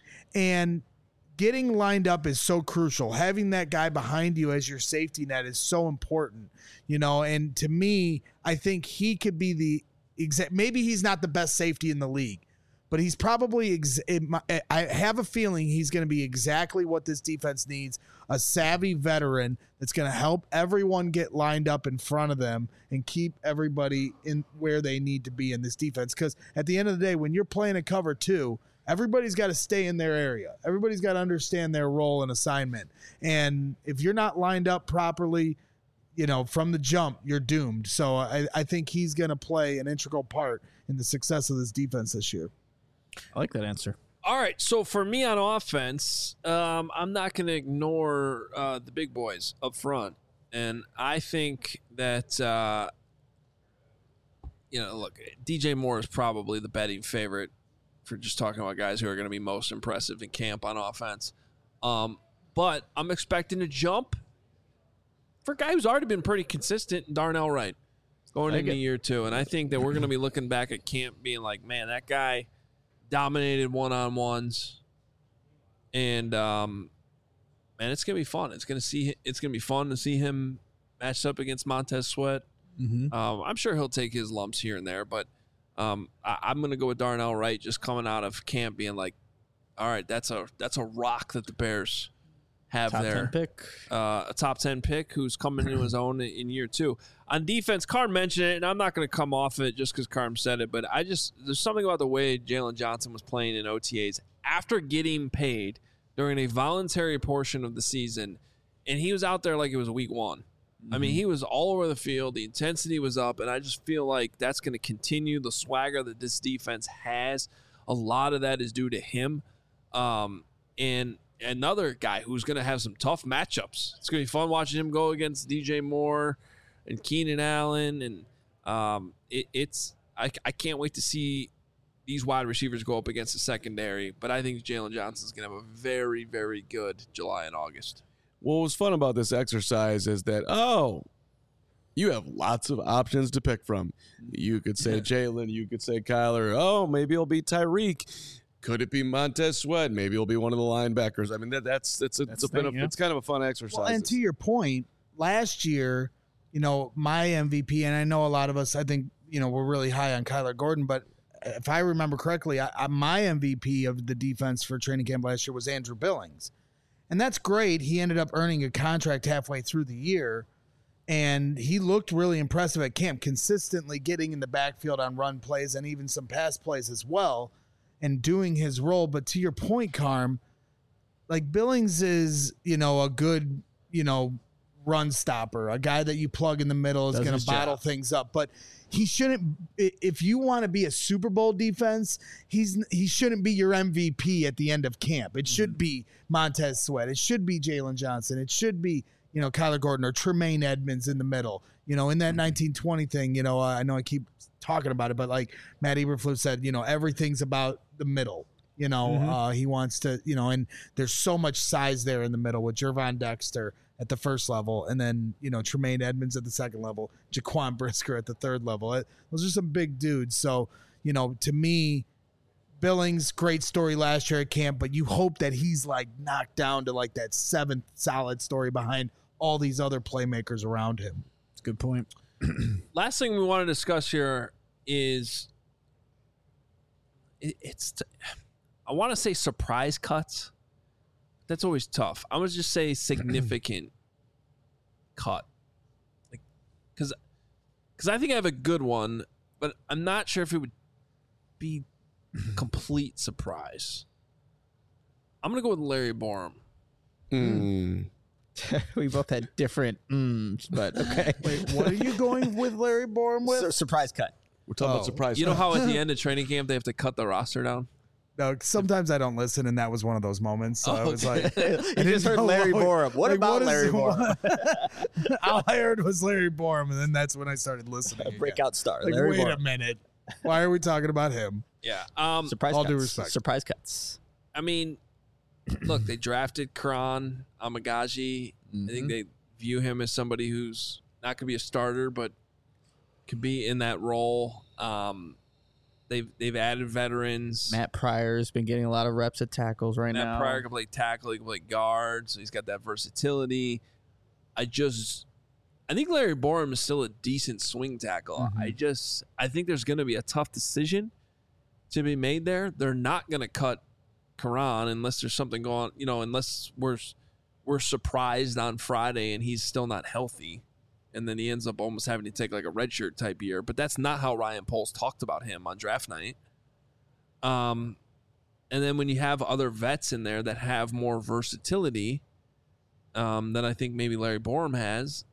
and getting lined up is so crucial. Having that guy behind you as your safety net is so important, you know, and to me, I think he could be the exact, maybe he's not the best safety in the league, but he's probably, ex- it, my, I have a feeling he's going to be exactly what this defense needs, a savvy veteran that's going to help everyone get lined up in front of them and keep everybody in where they need to be in this defense. Because at the end of the day, when you're playing a cover two, everybody's got to stay in their area. Everybody's got to understand their role and assignment. And if you're not lined up properly, you know, from the jump, you're doomed. So I, I think he's going to play an integral part in the success of this defense this year. I like that answer. All right, so for me on offense, um, I'm not going to ignore uh, the big boys up front. And I think that, uh, you know, look, D J Moore is probably the betting favorite for just talking about guys who are going to be most impressive in camp on offense. Um, but I'm expecting a jump for a guy who's already been pretty consistent, Darnell Wright, going into year two. And I think that we're going to be looking back at camp being like, man, that guy dominated one-on-ones. And, um, man, it's going to be fun. It's going to see. It's going to be fun to see him matched up against Montez Sweat. Mm-hmm. Um, I'm sure he'll take his lumps here and there, but um, I, I'm going to go with Darnell Wright just coming out of camp being like, all right, that's a that's a rock that the Bears have Top there. ten pick. Uh, a top ten pick who's coming into his own in year two. On defense, Carm mentioned it, and I'm not going to come off it just because Carm said it, but I just there's something about the way Jalen Johnson was playing in O T As after getting paid during a voluntary portion of the season, and he was out there like it was week one. I mean, he was all over the field. The intensity was up, and I just feel like that's going to continue. The swagger that this defense has, a lot of that is due to him. Um, and another guy who's going to have some tough matchups. It's going to be fun watching him go against D J Moore and Keenan Allen. And um, it, it's I, I can't wait to see these wide receivers go up against the secondary. But I think Jalen Johnson's going to have a very, very good July and August. What was fun about this exercise is that, oh, you have lots of options to pick from. You could say Jalen, you could say Kyler. Oh, maybe it'll be Tyreek. Could it be Montez Sweat? Maybe it'll be one of the linebackers. I mean, that, that's it's a, That's it's, a bit thing, of, yeah. it's kind of a fun exercise. Well, and to your point, last year, you know, my M V P, and I know a lot of us, I think, you know, we're really high on Kyler Gordon, but if I remember correctly, I, I, my M V P of the defense for training camp last year was Andrew Billings. And that's great. He ended up earning a contract halfway through the year, and he looked really impressive at camp, consistently getting in the backfield on run plays and even some pass plays as well and doing his role. But to your point, Carm, like Billings is, you know, a good, you know, run stopper, a guy that you plug in the middle is going to bottle job. things up. But he shouldn't, if you want to be a Super Bowl defense, he's he shouldn't be your M V P at the end of camp. It should be Montez Sweat. It should be Jalen Johnson. It should be, you know, Kyler Gordon or Tremaine Edmonds in the middle. You know, in that nineteen twenty thing, you know, uh, I know I keep talking about it, but like Matt Eberflus said, you know, everything's about the middle. You know, mm-hmm. uh, he wants to, you know, and there's so much size there in the middle with Jervon Dexter at the first level, and then, you know, Tremaine Edmonds at the second level, Jaquan Brisker at the third level. It, those are some big dudes. So, you know, to me, Billings, great story last year at camp, but you hope that he's like knocked down to like that seventh solid story behind all these other playmakers around him. That's a good point. Last thing we want to discuss here is it, it's, t- I want to say surprise cuts. That's always tough. I'm going to just say significant cut. Like, because because I think I have a good one, but I'm not sure if it would be complete surprise. I'm going to go with Larry Borum. Mm. We both had different mm, but okay. Wait, what are you going with Larry Borum with? Sur- surprise cut. We're talking Oh. about surprise. You know how at the end of training camp they have to cut the roster down? No, sometimes I don't listen, and that was one of those moments. So I was like, You I just didn't heard know Larry what- Borum. What like, about is- Larry Borum? All I heard was Larry Borum, and then that's when I started listening. again. Breakout star. Like, Larry wait Borum. a minute. Why are we talking about him? Yeah. Um, Surprise All cuts. due respect. Surprise cuts. I mean, look, they drafted Karan Amagaji. Mm-hmm. I think they view him as somebody who's not going to be a starter, but could be in that role. Um, they've they've added veterans. Matt Pryor's been getting a lot of reps at tackles right Matt now. Pryor can play tackle, he can play guard, so he's got that versatility. I just, I think Larry Borum is still a decent swing tackle. Mm-hmm. I just, I think there's going to be a tough decision to be made there. They're not going to cut Karan unless there's something going, you know, unless we're we're surprised on Friday and he's still not healthy, and then he ends up almost having to take like a redshirt type year. But that's not how Ryan Poles talked about him on draft night. Um, and then when you have other vets in there that have more versatility, um, than I think maybe Larry Borum has,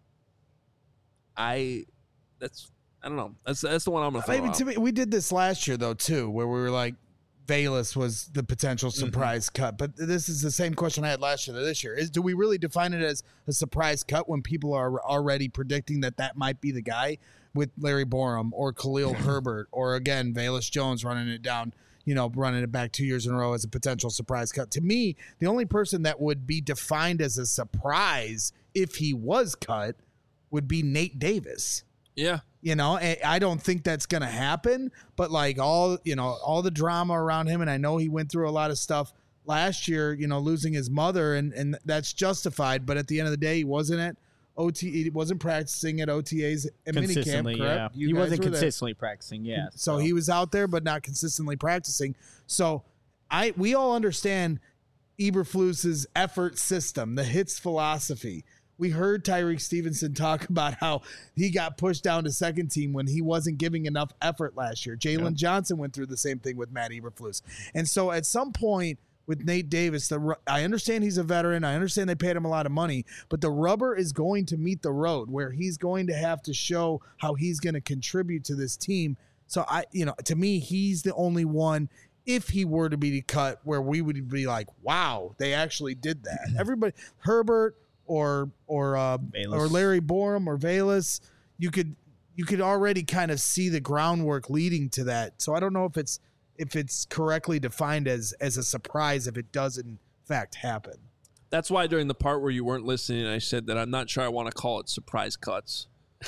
I that's I don't know. That's that's the one I'm gonna throw Maybe out. to me, we did this last year though too, where we were like, Bayless was the potential surprise mm-hmm. cut. But this is the same question I had last year to this year: is do we really define it as a surprise cut when people are already predicting that that might be the guy with Larry Borum or Khalil Herbert or again Velus Jones running it down? You know, running it back two years in a row as a potential surprise cut. To me, the only person that would be defined as a surprise if he was cut would be Nate Davis. Yeah. You know, and I don't think that's going to happen, but like all, you know, all the drama around him. And I know he went through a lot of stuff last year, you know, losing his mother and, and that's justified. But at the end of the day, he wasn't at O T, he wasn't practicing at O T As and minicamp, correct? Yeah. You he wasn't were there. consistently practicing. Yeah. So, so he was out there, but not consistently practicing. So I, we all understand Eberflus's effort system, the hits philosophy. We heard Tyreek Stevenson talk about how he got pushed down to second team when he wasn't giving enough effort last year. Jalen yeah. Johnson went through the same thing with Matt Eberflus. And so at some point with Nate Davis, the I understand he's a veteran. I understand they paid him a lot of money, but the rubber is going to meet the road where he's going to have to show how he's going to contribute to this team. So I, you know, to me, he's the only one, if he were to be cut, where we would be like, wow, they actually did that. Everybody, Herbert, or or uh, or Larry Borum or Velus, you could you could already kind of see the groundwork leading to that. So I don't know if it's if it's correctly defined as as a surprise if it does in fact happen. That's why during the part where you weren't listening, I said that I'm not sure I want to call it surprise cuts.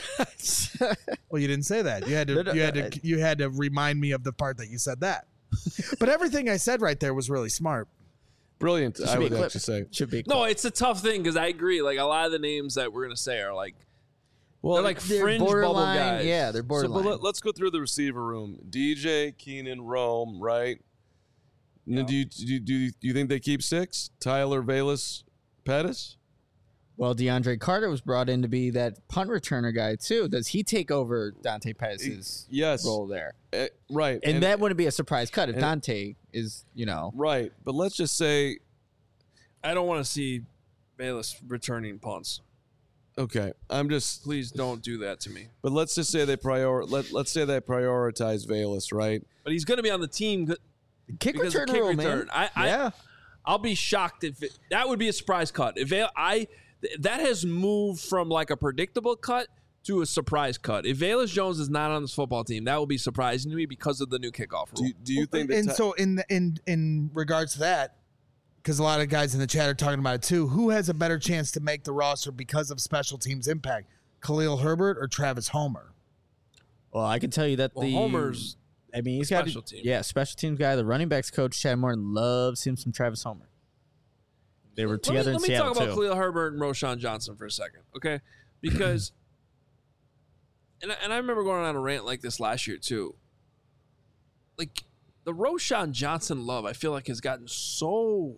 Well, you didn't say that. You had to you had to you had to remind me of the part that you said that. But everything I said right there was really smart. Brilliant, I would actually say. Should be. No, it's a tough thing because I agree. Like a lot of the names that we're gonna say are like, well, they're like they're fringe bubble borderline, guys. Yeah, they're borderline. So, but let, let's go through the receiver room. D J, Keenan, Rome, right? Yeah. Do you do you, do you, do you think they keep six? Tyler, Velus, Pettis? Well, DeAndre Carter was brought in to be that punt returner guy too. Does he take over Dante Pettis' yes. role there? Uh, right. And, and that wouldn't be a surprise cut if and, Dante is, you know. Right. But let's just say I don't want to see Velus returning punts. Okay. I'm just please don't do that to me. But let's just say they prior let let's say they prioritize Velus, right? But he's going to be on the team kick return kick rule, return. man. I, I yeah. I'll be shocked if it, that would be a surprise cut. If I that has moved from like a predictable cut to a surprise cut. If Velus Jones is not on this football team, that will be surprising to me because of the new kickoff rule. Do, do you think? And that so in the, in in regards to that, because a lot of guys in the chat are talking about it too, who has a better chance to make the roster because of special teams impact, Khalil Herbert or Travis Homer? Well, I can tell you that well, the Homer's. I mean, he's got special team. Yeah, special teams guy. The running backs coach Chad Morton loves him some Travis Homer. They were together let me, in Seattle Seattle Let me talk too. about Khalil Herbert and Roshan Johnson for a second, okay? Because, and I, and I remember going on a rant like this last year too. Like the Roshan Johnson love, I feel like has gotten so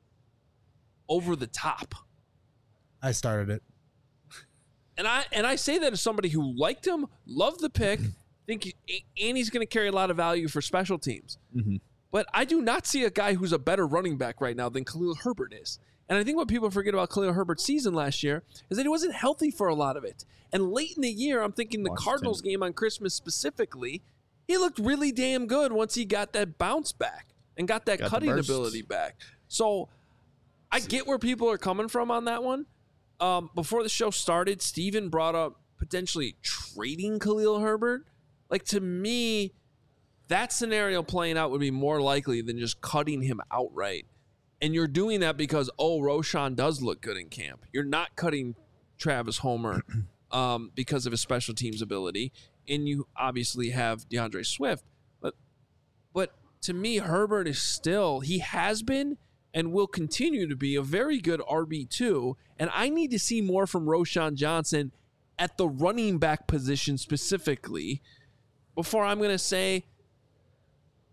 over the top. I started it, and I and I say that as somebody who liked him, loved the pick, think he, and he's going to carry a lot of value for special teams. Mm-hmm. But I do not see a guy who's a better running back right now than Khalil Herbert is. And I think what people forget about Khalil Herbert's season last year is that he wasn't healthy for a lot of it. And late in the year, I'm thinking the Washington. Cardinals game on Christmas specifically, he looked really damn good once he got that bounce back and got that Got the cutting bursts. ability back. So I get where people are coming from on that one. Um, before the show started, Steven brought up potentially trading Khalil Herbert. Like, to me, that scenario playing out would be more likely than just cutting him outright. And you're doing that because, oh, Roshan does look good in camp. You're not cutting Travis Homer um, because of his special teams ability. And you obviously have DeAndre Swift. But, but to me, Herbert is still, he has been and will continue to be a very good R B two. And I need to see more from Roshan Johnson at the running back position specifically before I'm going to say,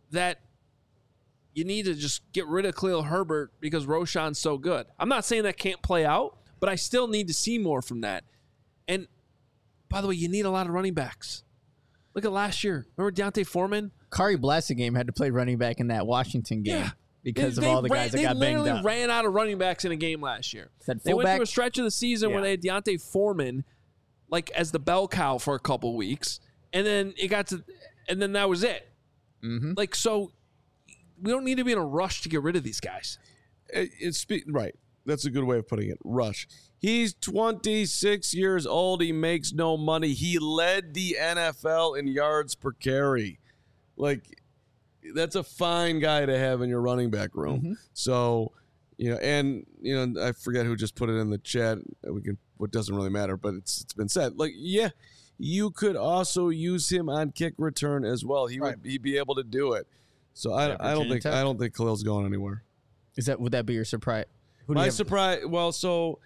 that you need to just get rid of Khalil Herbert because Roshan's so good. I'm not saying that can't play out, but I still need to see more from that. And by the way, you need a lot of running backs. Look at last year. Remember Deontay Foreman? Kari Blasingame had to play running back in that Washington game Yeah. because They- of all they the ran- guys that got They banged literally up. ran out of running backs in a game last year. Said They went fullback- through a stretch of the season where Yeah. they had Deontay Foreman like as the bell cow for a couple weeks, and then it got to, and then that was it. Mm-hmm. Like, so we don't need to be in a rush to get rid of these guys. It, it's spe- right. That's a good way of putting it. Rush. He's twenty-six years old. He makes no money. He led the N F L in yards per carry. Like, that's a fine guy to have in your running back room. Mm-hmm. So, you know, and you know, I forget who just put it in the chat. We can. What doesn't really matter, but it's it's been said. Like, yeah, you could also use him on kick return as well. He Right. would he'd be able to do it. So I, Yeah, I don't Virginia think Tech. I don't think Khalil's going anywhere. Is that would that be your surprise? Who do you My have- surprise. Well, so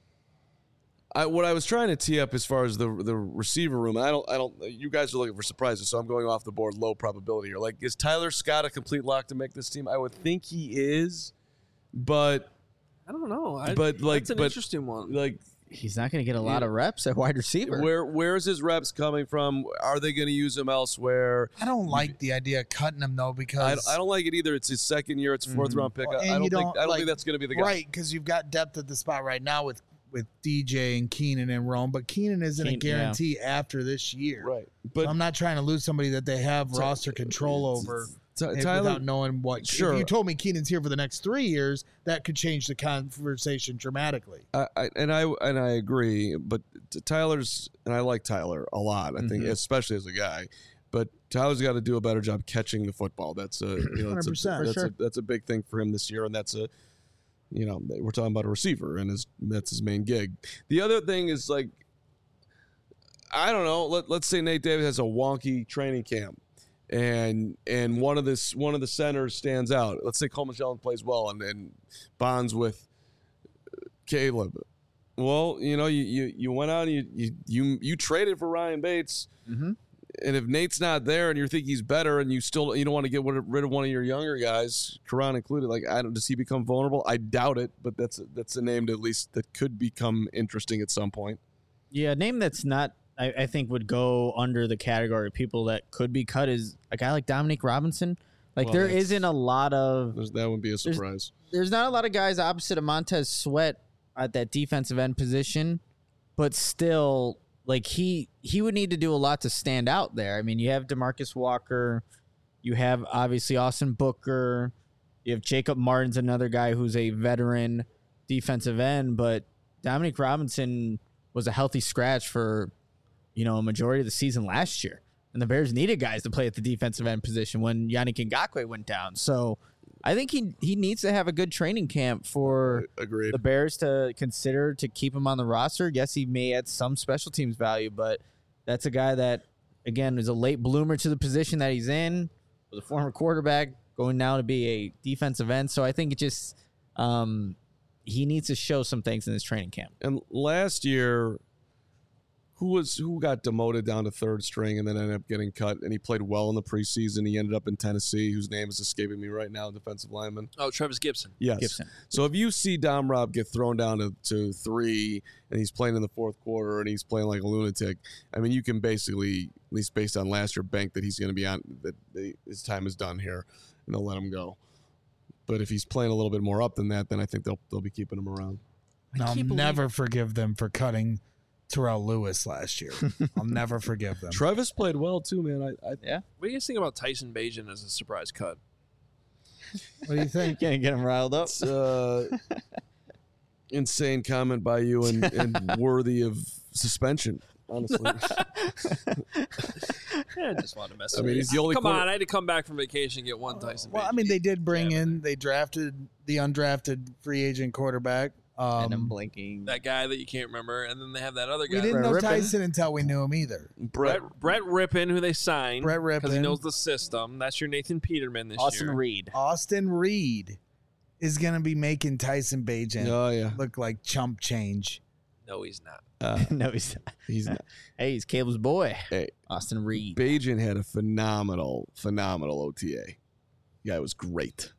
I, what I was trying to tee up as far as the the receiver room. I don't. I don't. You guys are looking for surprises, so I'm going off the board. Low probability here. Like, is Tyler Scott a complete lock to make this team? I would think he is, but I don't know. I, But, like, that's an but- interesting one. like, He's not going to get a lot of reps at wide receiver. where where's his reps coming from? Are they going to use him elsewhere? I don't like the idea of cutting him though I, because I don't like it either. It's his second year. It's a 4th round pick. Well, I, and I don't you think. don't, I don't like, think that's going to be the guy. right because you've got depth at the spot right now with with D J and Keenan and Rome, but Keenan isn't a Keen- yeah. guarantee after this year. Right. But But I'm not trying to lose somebody that they have roster control over. Ty- eh, Tyler, without knowing what. Sure. If you told me Keenan's here for the next three years, that could change the conversation dramatically. I, I, and I and I agree, but t- Tyler's and I like Tyler a lot. I think, Mm-hmm. especially as a guy, but Tyler's got to do a better job catching the football. That's a you know that's a, one hundred percent. that's, For a that's a big thing for him this year, and that's a you know we're talking about a receiver, and his that's his main gig. The other thing is like I don't know. Let let's say Nate Davis has a wonky training camp. And and one of this one of the centers stands out. Let's say Coleman Shelton plays well and, and bonds with Caleb. Well, you know, you, you, you went out and you, you you you traded for Ryan Bates. Mhm. And if Nate's not there and you think he's better and you still you don't want to get rid of one of your younger guys, Karan included, like I don't does he become vulnerable? I doubt it, but that's a, that's a name to at least that could become interesting at some point. Yeah, a name that's not, I, I think, would go under the category of people that could be cut is a guy like Dominique Robinson. Like, Well, there that's- isn't a lot of, There's, that would be a surprise. there's not a lot of guys opposite of Montez Sweat at that defensive end position, but still, like, he he would need to do a lot to stand out there. I mean, you have DeMarcus Walker, you have obviously Austin Booker, you have Jacob Martin's another guy who's a veteran defensive end, but Dominique Robinson was a healthy scratch for, you know, a majority of the season last year. And the Bears needed guys to play at the defensive end position when Yannick Ngakoue went down. So I think he he needs to have a good training camp for Agreed. the Bears to consider to keep him on the roster. Yes, he may add some special teams value, but that's a guy that, again, is a late bloomer to the position that he's in, was a former quarterback, going now to be a defensive end. So I think it just um, he needs to show some things in this training camp. And last year, who was who got demoted down to third string and then ended up getting cut? And he played well in the preseason. He ended up in Tennessee, whose name is escaping me right now, defensive lineman. Oh, Travis Gibson. Yes. Gibson. So if you see Dom Rob get thrown down to, to three and he's playing in the fourth quarter and he's playing like a lunatic, I mean, you can basically, at least based on last year, bank that he's going to be on, that they, his time is done here and they'll let him go. But if he's playing a little bit more up than that, then I think they'll they'll be keeping him around. I'll can't believe- never forgive them for cutting Terrell Lewis last year. I'll never forgive them. Travis played well too, man. I, I Yeah. What do you guys think about Tyson Bagent as a surprise cut? What do you think? Can't get him riled up. It's uh, insane comment by you and, and worthy of suspension, honestly. Yeah, I just wanted to mess I with mean, you. he's the only Come quarter- on, I had to come back from vacation and get one Tyson Well, I Bagent. mean, they did bring Yeah, in, they drafted the undrafted free agent quarterback. and I'm Um, blinking. that guy that you can't remember, and then they have that other we guy. didn't Brett know Rippon. Tyson until we knew him either. Brett, Brett, Brett Rippon, who they signed. Brett Because he Rippon. knows the system. That's your Nathan Peterman this Austin year. Reed. Austin Reed is going to be making Tyson Bagent oh yeah, look like chump change. No, he's not. uh, No, he's not. he's not. Hey, he's Caleb's boy, Hey, Austin Reed. Bajan had a phenomenal, phenomenal O T A. The guy was great.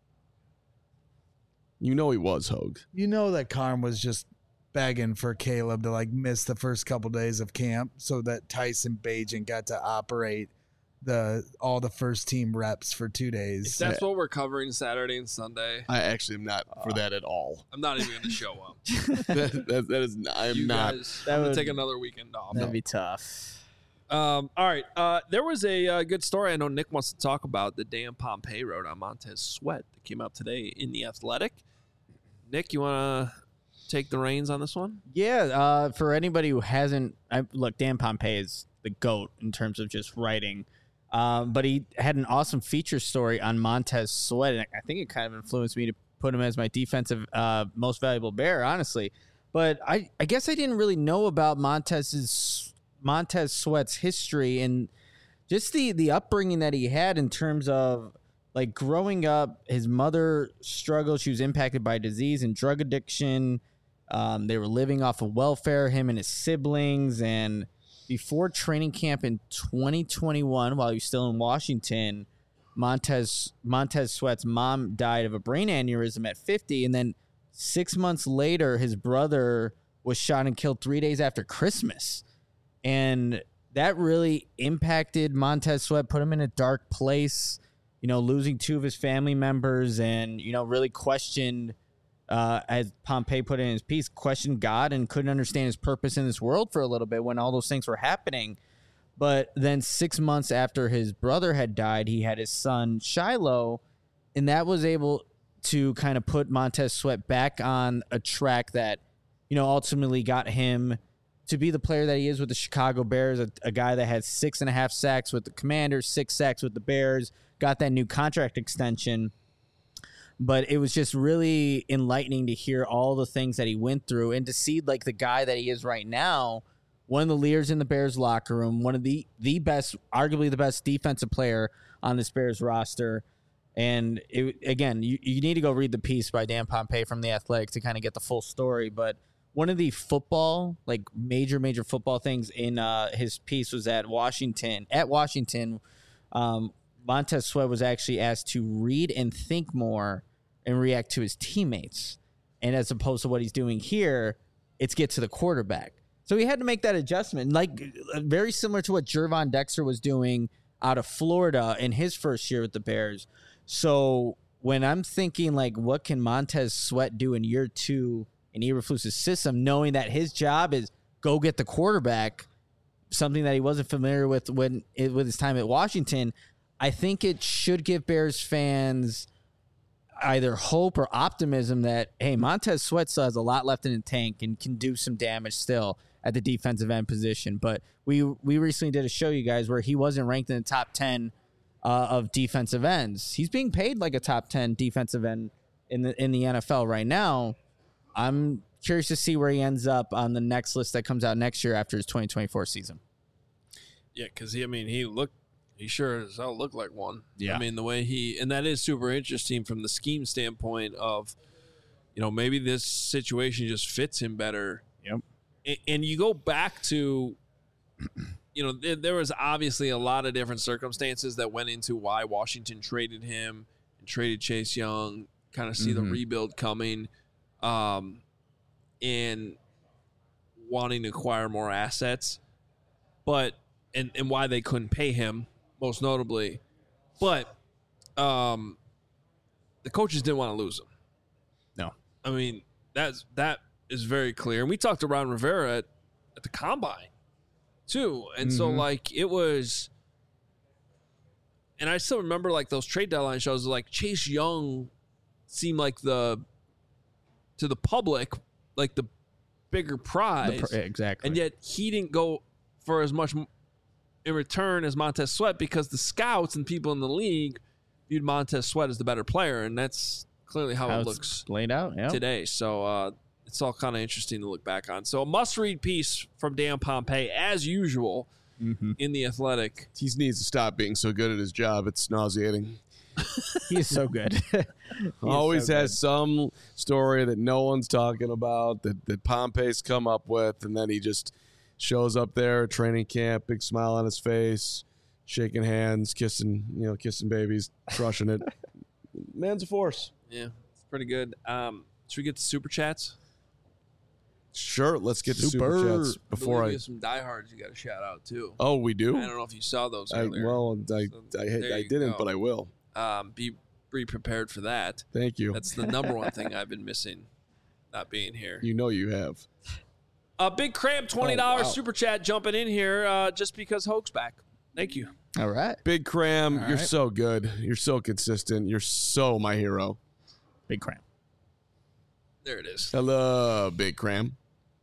You know he was, Hogue. You know that Carm was just begging for Caleb to like miss the first couple days of camp so that Tyson Bagent got to operate the all the first team reps for two days. If that's what we're covering Saturday and Sunday, I actually am not for that at all. I'm not even going to show up. that, that, that is, I am you not. Guys, That I'm going would- to take another weekend off. That'd be tough. Um, all right. Uh, there was a uh, good story I know Nick wants to talk about that Dan Pompei wrote on Montez Sweat that came out today in The Athletic. Nick, you want to take the reins on this one? Yeah, uh, for anybody who hasn't, I, look, Dan Pompei is the GOAT in terms of just writing. Um, but he had an awesome feature story on Montez Sweat, and I think it kind of influenced me to put him as my defensive uh, most valuable Bear, honestly. But I, I guess I didn't really know about Montez's Montez Sweat's history and just the the upbringing that he had in terms of like growing up. His mother struggled; she was impacted by disease and drug addiction. Um, they were living off of welfare, him and his siblings, and before training camp in twenty twenty-one, while he was still in Washington, Montez Montez Sweat's mom died of a brain aneurysm at fifty, and then six months later, his brother was shot and killed three days after Christmas, and that really impacted Montez Sweat, put him in a dark place. You know, losing two of his family members, and you know, really questioned. Uh, as Pompei put it in his piece, questioned God and couldn't understand his purpose in this world for a little bit when all those things were happening. But then six months after his brother had died, he had his son Shiloh, and that was able to kind of put Montez Sweat back on a track that, you know, ultimately got him to be the player that he is with the Chicago Bears, a, a guy that had six and a half sacks with the Commanders, six sacks with the Bears, got that new contract extension. But it was just really enlightening to hear all the things that he went through and to see like the guy that he is right now, one of the leaders in the Bears locker room, one of the, the best, arguably the best defensive player on this Bears roster. And it, again, you, you need to go read the piece by Dan Pompei from The Athletic to kind of get the full story. But one of the football, like major, major football things in uh, his piece was at Washington, at Washington, um, Montez Sweat was actually asked to read and think more and react to his teammates. And as opposed to what he's doing here, it's get to the quarterback. So he had to make that adjustment, like very similar to what Gervon Dexter was doing out of Florida in his first year with the Bears. So when I'm thinking like, what can Montez Sweat do in year two in Eberflus's system, knowing that his job is go get the quarterback, something that he wasn't familiar with when with his time at Washington, I think it should give Bears fans either hope or optimism that, hey, Montez Sweat still has a lot left in the tank and can do some damage still at the defensive end position. But we we recently did a show, you guys, where he wasn't ranked in the top ten uh, of defensive ends. He's being paid like a top ten defensive end in the in the N F L right now. I'm curious to see where he ends up on the next list that comes out next year after his twenty twenty-four season. Yeah, because he, I mean, he looked, he sure as hell looked like one. Yeah. I mean, the way he, and that is super interesting from the scheme standpoint of, you know, maybe this situation just fits him better. Yep. And, and you go back to, you know, there, there was obviously a lot of different circumstances that went into why Washington traded him and traded Chase Young, kind of see Mm-hmm. the rebuild coming, um, and wanting to acquire more assets. But, and, and why they couldn't pay him, most notably. But um, the coaches didn't want to lose him. No. I mean, that's that is very clear. And we talked to Ron Rivera at, at the Combine, too. And so, Mhm. like, it was... And I still remember, like, those trade deadline shows, like, Chase Young seemed like the... to the public, like, the bigger prize. The pr- exactly. And yet he didn't go for as much in return as Montez Sweat because the scouts and people in the league viewed Montez Sweat as the better player, and that's clearly how, How it it's looks laid out, yeah. today. So uh, it's all kind of interesting to look back on. So a must-read piece from Dan Pompei, as usual, Mm-hmm. in The Athletic. He needs to stop being so good at his job. It's nauseating. He is so good. He is Always so has some story that no one's talking about that, that Pompei's come up with, and then he just shows up there at training camp, big smile on his face, shaking hands, kissing, you know, kissing babies, crushing it. Man's a force. Yeah, it's pretty good. Um, should we get to super chats? Sure, let's get to Super. super chats before I I. have some diehards you got to shout out too. Oh, we do. I don't know if you saw those I, earlier. well, I So I, there I, I you didn't, go. but I will. um, be be prepared for that. Thank you. That's the number one thing I've been missing, not being here. You know you have. A uh, big cram twenty dollars Oh, wow. super chat jumping in here uh, just because Hoke's back. Thank you. All right. Big Cram, All you're right. so good. You're so consistent. You're so my hero. Big cram. There it is. I love Big Cram.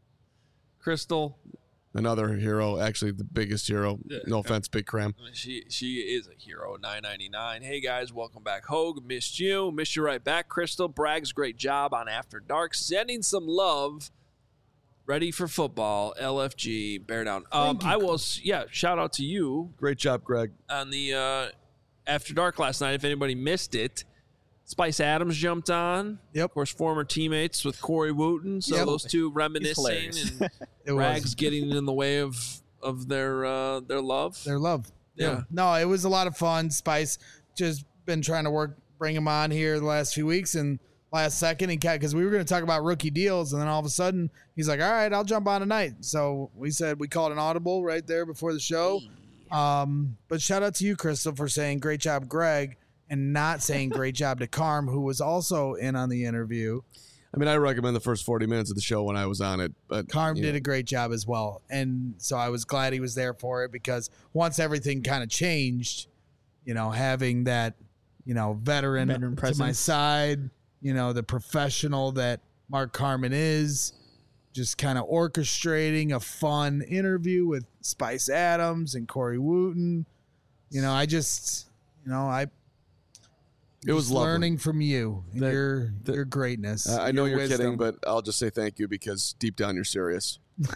Crystal, Another hero, actually the biggest hero. Yeah. No offense, Big Cram. she she is a hero. nine ninety-nine. Hey guys, welcome back. Hogue, missed you. Missed you right back. Crystal, Bragg's great job on After Dark. Sending some love. Ready for football. L F G, bear down. Um, I will, s- yeah, shout out to you Great job, Greg. on the uh, After Dark last night. If anybody missed it, Spice Adams jumped on. Yep. Of course, former teammates with Corey Wooten. So Yep. those two reminiscing hilarious. and It Rags was getting in the way of of their uh, their love. their love. Yeah. No, it was a lot of fun. Spice just been trying to work, bring him on here the last few weeks, and last second he because we were going to talk about rookie deals, and then all of a sudden he's like, "All right, I'll jump on tonight." So we said we called an audible right there before the show. Um, but shout out to you, Crystal, for saying great job, Greg, and not saying great job to Carm, who was also in on the interview. I mean, I recommend the first forty minutes of the show when I was on it, but Carm you did know, a great job as well. And so I was glad he was there for it, because once everything kind of changed, you know, having that, you know, veteran, Veteran to my presence. side, you know, the professional that Mark Carman is, just kind of orchestrating a fun interview with Spice Adams and Corey Wooten. You know, I just, you know, I it was just lovely. learning from you and That- your that- your greatness. Uh, I know your you're kidding, wisdom. but I'll just say thank you because deep down you're serious.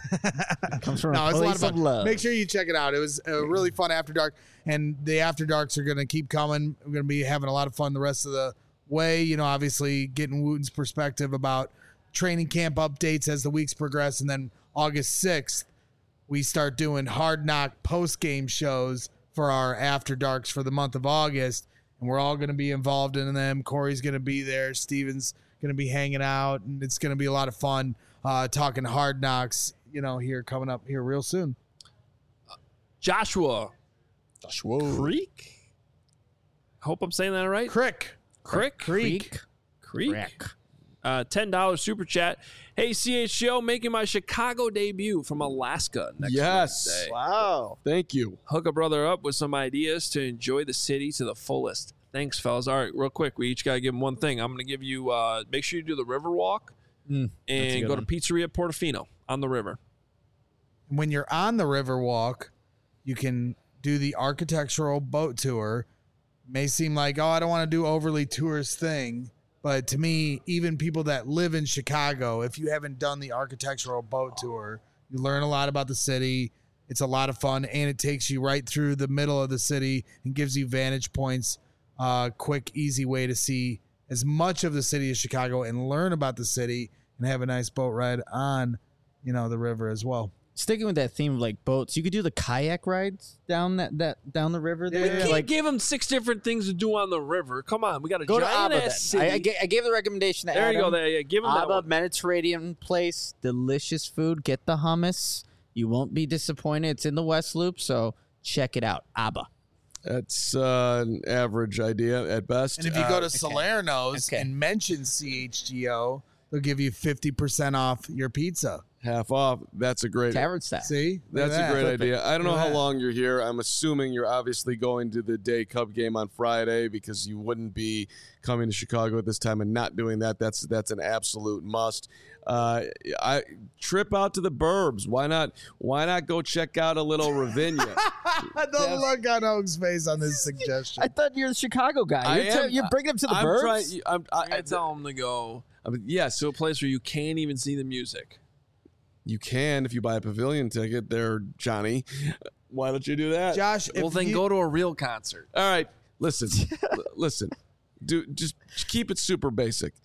Comes from No, a it's a lot place of fun. of love. Make sure you check it out. It was a really fun After Dark, and the After Darks are going to keep coming. We're going to be having a lot of fun the rest of the way. You know, obviously getting Wooten's perspective about training camp updates as the weeks progress, and then August sixth, we start doing Hard Knock post game shows for our After Darks for the month of August, and we're all going to be involved in them. Corey's going to be there. Steven's going to be hanging out, and it's going to be a lot of fun uh, talking Hard Knocks, you know, here coming up here real soon. Joshua Creek. Hope I'm saying that right. Crick. Crick. Creek. Creek. Crack. Uh, ten dollars super chat. Hey, C H G O, making my Chicago debut from Alaska next Yes. Wednesday. Wow. Thank you. Hook a brother up with some ideas to enjoy the city to the fullest. Thanks, fellas. All right, real quick, we each got to give him one thing. I'm going to give you, uh, make sure you do the river walk Mm, that's a and good go one. to Pizzeria Portofino on the river. When you're on the river walk, you can do the architectural boat tour. May seem like, oh, I don't want to do overly tourist thing. But to me, even people that live in Chicago, if you haven't done the architectural boat tour, you learn a lot about the city. It's a lot of fun, and it takes you right through the middle of the city and gives you vantage points. Uh, quick, easy way to see as much of the city as Chicago and learn about the city and have a nice boat ride on, you know, the river as well. Sticking with that theme of like boats, you could do the kayak rides down that, that down the river Yeah, there. yeah. Can't Like give them six different things to do on the river. Come on, we got a go to giant Abba. Then. ass city. I, I, ga- I gave the recommendation to there Adam. you go. There, yeah, give them that Abba one. Mediterranean place, delicious food. Get the hummus. You won't be disappointed. It's in the West Loop, so check it out. Abba. That's uh, an average idea at best. And if you Uh, go to Salerno's Okay. and mention C H G O, they'll give you fifty percent off your pizza. half off, that's a great Tavern style. See? Look at That's a that. great Flip it. idea. I don't know Look at how that. long you're here. I'm assuming you're obviously going to the day Cub game on Friday because you wouldn't be coming to Chicago at this time and not doing that. That's that's an absolute must. Uh, I trip out to the Burbs. Why not? Why not go check out a little Ravinia? The look on Oak's face on this suggestion. I thought you're the Chicago guy. I You're, te- am- you're bringing him to the I'm burbs. trying. I'm, I, I'm gonna tell them to go I mean, yes, to a place where you can't even see the music. you can if you buy a pavilion ticket there, Johnny. Why don't you do that? Josh, if Well, then you, go to a real concert. All right, listen, l- listen. Do just keep it super basic.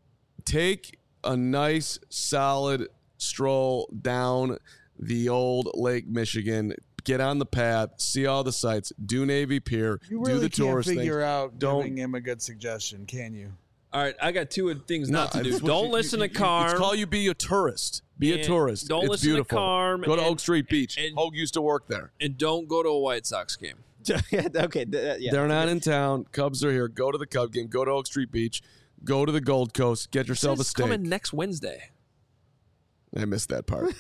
Take a nice, solid stroll down the old Lake Michigan. get on the path, see all the sights, do Navy Pier, You do really the can't tourist figure thing. out Don't- giving him a good suggestion, can you? All right, I got two things not to do. it's what Don't you- listen you- to you- Carm. It's call you be a tourist. Be a And tourist. don't it's listen to beautiful. Carm Go to and- Oak Street Beach. and- Hogue used to work there. and don't go to a White Sox game. okay, th- yeah. They're not in town. Cubs are here. Go to the Cub game. Go to Oak Street Beach. Go to the Gold Coast. Get yourself a It's steak. coming next Wednesday. I missed that part.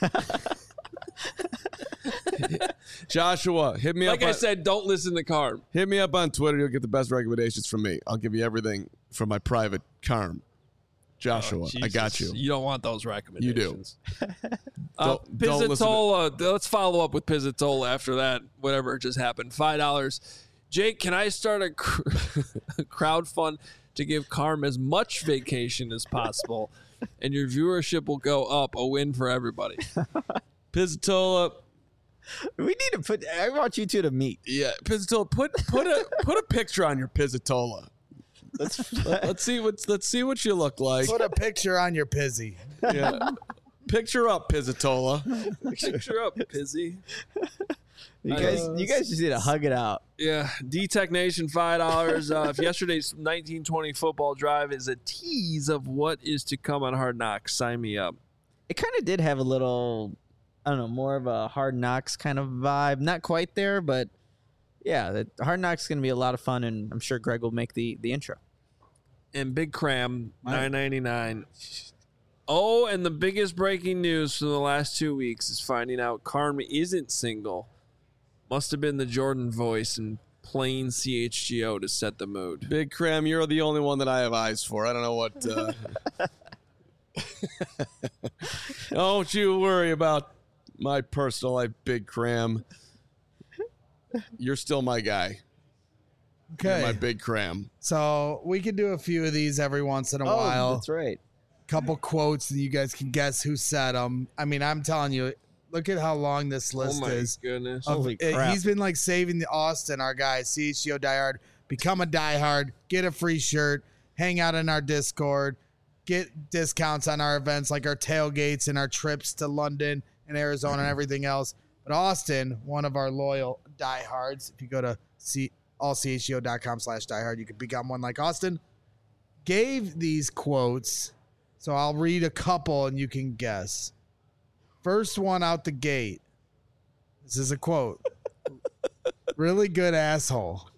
Joshua, hit me Like up. I on, said, don't listen to Carm. hit me up on Twitter. You'll get the best recommendations from me. I'll give you everything from my private Carm. Joshua, Oh, I got Jesus. you. You don't want those recommendations. You do. uh, Don't- don't listen to- Pizzatola. Let's follow up with Pizzatola after that. Whatever just happened. Five dollars. Jake, can I start a, cr- a crowd fund to give Carm as much vacation as possible, and your viewership will go up? A win for everybody. Pizzatola. We need to put. I want you two to meet. Yeah, Pizzatola. Put put a put a picture on your Pizzatola. Let's. Let's see what let's see what you look like. Put a picture on your pizzy. Yeah. Picture up, Pizzatola. Picture up, Pizzy. You guys, you guys just need to hug it out. Yeah, D-Tech Nation, five dollars. Uh, if yesterday's nineteen twenty football drive is a tease of what is to come on Hard Knocks, sign me up. It kind of did have a little, I don't know, more of a Hard Knocks kind of vibe. Not quite there, but yeah, the Hard Knocks is going to be a lot of fun, and I'm sure Greg will make the the intro. And Big Cram, nine ninety-nine. Oh, and the biggest breaking news from the last two weeks is finding out Carm isn't single. Must have been the Jordan voice and plain C H G O to set the mood. Big Cram, you're the only one that I have eyes for. I don't know what. Uh... Don't you worry about my personal life, Big Cram. You're still my guy. Okay. My Big Cram. So we can do a few of these every once in a Oh, while. that's right. Couple quotes, and you guys can guess who said them. I mean, I'm telling you, look at how long this Oh list my is. goodness. Of- Holy uh, crap. He's been like saving the Austin, our guy, C H G O diehard. Become a diehard, get a free shirt, hang out in our Discord, get discounts on our events like our tailgates and our trips to London and Arizona and everything else. But Austin, one of our loyal diehards, if you go to C- allchgo.com slash diehard, you can become one like Austin, gave these quotes. So I'll read a couple and you can guess. First one out the gate. This is a quote. Really good asshole.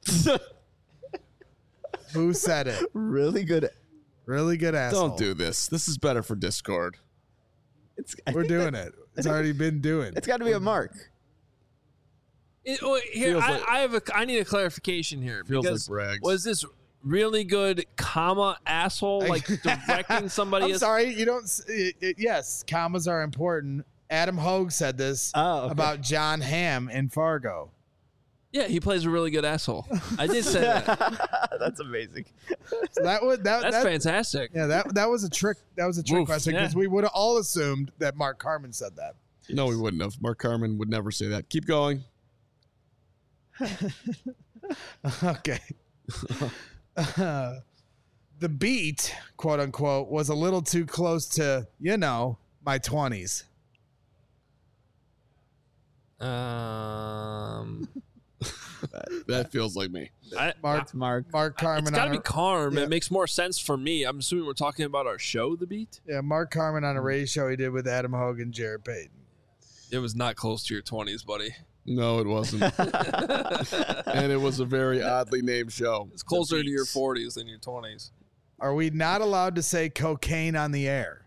Who said it? Really good. Really good asshole. Don't do this. This is better for Discord. It's, I We're think doing that- it. It's already been doing. It's got to be a mark. It- oh, here, Feels I, like- I have a. I need a clarification here. Feels like because brags. Was this really good, comma asshole, like directing somebody? I'm as, sorry. You don't. s- It, it, yes, commas are important. Adam Hogue said this Oh, okay. about John Hamm in Fargo. Yeah, he plays a really good asshole. I did say that. That's amazing. So that would that, That's that fantastic. yeah that that was a trick. That was a trick Woof. question because Yeah. we would have all assumed that Mark Carmen said that. No, we wouldn't have. Mark Carmen would never say that. Keep going. Okay. Uh, the beat, quote unquote, was a little too close to, you know, my twenties. Um, That feels like me. I, Mark It's Mark. Mark Carmen. it's got to on be a- Carm. Yeah. It makes more sense for me. I'm assuming we're talking about our show, The Beat. yeah, Mark Carmen on a radio show he did with Adam Hogue and Jared Payton. It was not close to your twenties, buddy. No, it wasn't. And it was a very oddly named show. It's closer The to your Beats. forties than your twenties. Are we not allowed to say cocaine on the air?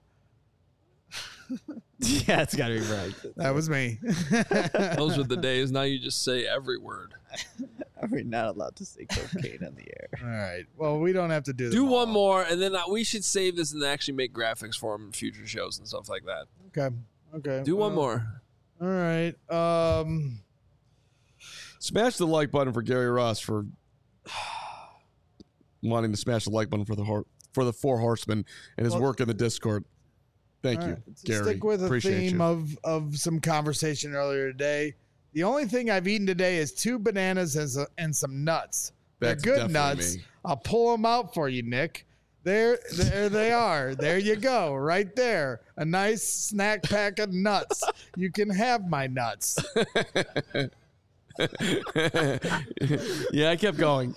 Yeah, it's got to be right. That was me. Those were the days. Now you just say every word. Are we not allowed to say cocaine on the air? All right. Well, we don't have to do Do them one all. more, and then uh, we should save this and actually make graphics for them in future shows and stuff like that. Okay. Okay. Do one well, more. All right. Um. Smash the like button for Gary Ross for wanting to smash the like button for the hor- for the Four Horsemen and his Well- work in the Discord. Thank All you, right, to Gary. Stick with a Appreciate theme you. of of some conversation earlier today. The only thing I've eaten today is two bananas and, so- and some nuts. That's They're good definitely nuts. me. I'll pull them out for you, Nick. There, there they are. There you go, right there. A nice snack pack of nuts. You can have my nuts. Yeah, I kept going.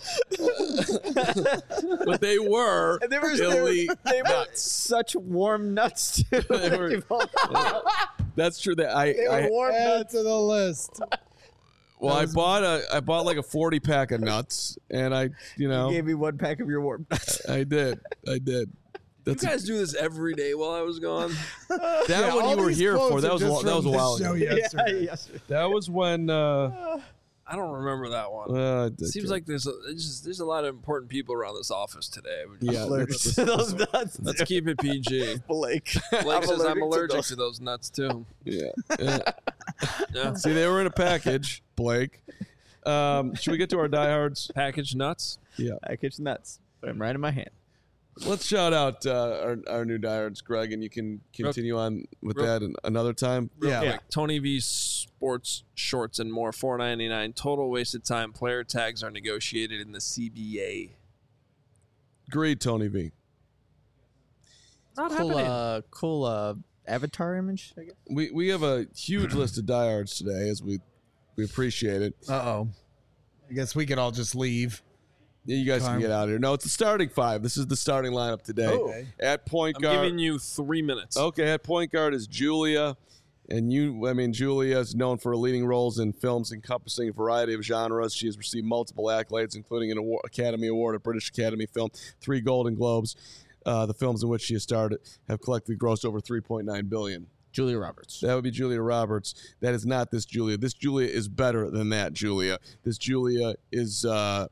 But they were And they were, elite they were nuts. such warm nuts too. They were- That's true. That I, They were I warm Add nuts. to the list. well, I bought a I bought like a forty pack of nuts, and I, you know, You gave me one pack of your warm nuts. I did, I did. You That's guys do this every day while I was gone. that Yeah, one all you were these here for. quotes That are was a, just that was a from this while show ago. yesterday. yes. That was when. Uh, I don't remember that one. uh, Seems like there's a, it's just, there's a lot of important people around this office today. We- yeah. Allergic to those nuts. Let's keep it P G. Blake. Blake says I'm allergic to allergic those. to those nuts too. Yeah. yeah. Yeah. See, they were in a package, Blake. Um, should we get to our diehards? Packaged nuts. Yeah. Package nuts. Put them right in my hand. Let's shout out uh, our, our new diehards, Greg, and you can continue on with real- that an- another time. Real Yeah. quick, Tony V Sports Shorts and more, four ninety-nine. Total wasted time. Player tags are negotiated in the C B A. Agreed, Tony V. Not Cool, happening. uh, cool uh, avatar image, I guess. We we have a huge list of diehards today, as we we appreciate it. Uh oh. I guess we could all just leave. Yeah, you guys can Time. get out of here. No, it's the starting five. This is the starting lineup today. Okay. At point I'm guard. giving you three minutes. Okay, at point guard is Julia. And you, I mean, Julia is known for her leading roles in films encompassing a variety of genres. She has received multiple accolades, including an award, Academy Award, a British Academy film, three Golden Globes. Uh, the films in which she has starred have collectively grossed over three point nine billion dollars. Julia Roberts. That would be Julia Roberts. That is not this Julia. This Julia is better than that Julia. This Julia is uh,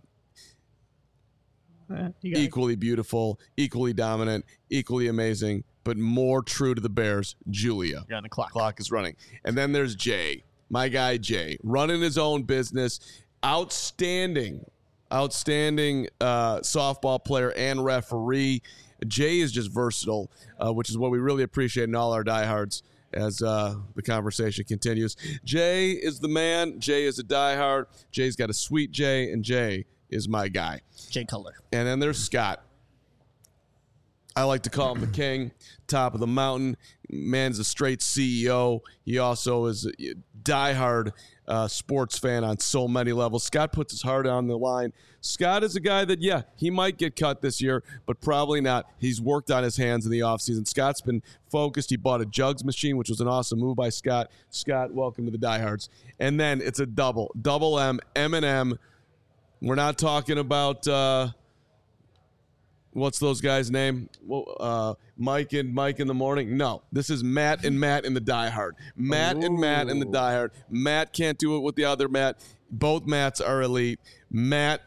Eh, you got it. equally beautiful, equally dominant, equally amazing, but more true to the Bears, Julia. You're on the clock. Clock is running. And then there's Jay, my guy Jay, running his own business, outstanding, outstanding uh, softball player and referee. Jay is just versatile, uh, which is what we really appreciate in all our diehards as uh, the conversation continues. Jay is the man. Jay is a diehard. Jay's got a sweet Jay, and Jay is my guy. Jay Cutler. And then there's Scott. I like to call him the king, top of the mountain. Man's a straight C E O. He also is a diehard uh, sports fan on so many levels. Scott puts his heart on the line. Scott is a guy that, yeah, he might get cut this year, but probably not. He's worked on his hands in the offseason. Scott's been focused. He bought a jugs machine, which was an awesome move by Scott. Scott, welcome to the diehards. And then it's a double, double M, M and M. We're not talking about uh, what's those guys' name? Well, uh, Mike and Mike in the morning. No, this is Matt and Matt in the Die Hard. Matt and Matt in the Die Hard. Matt can't do it with the other Matt. Both Matts are elite. Matt,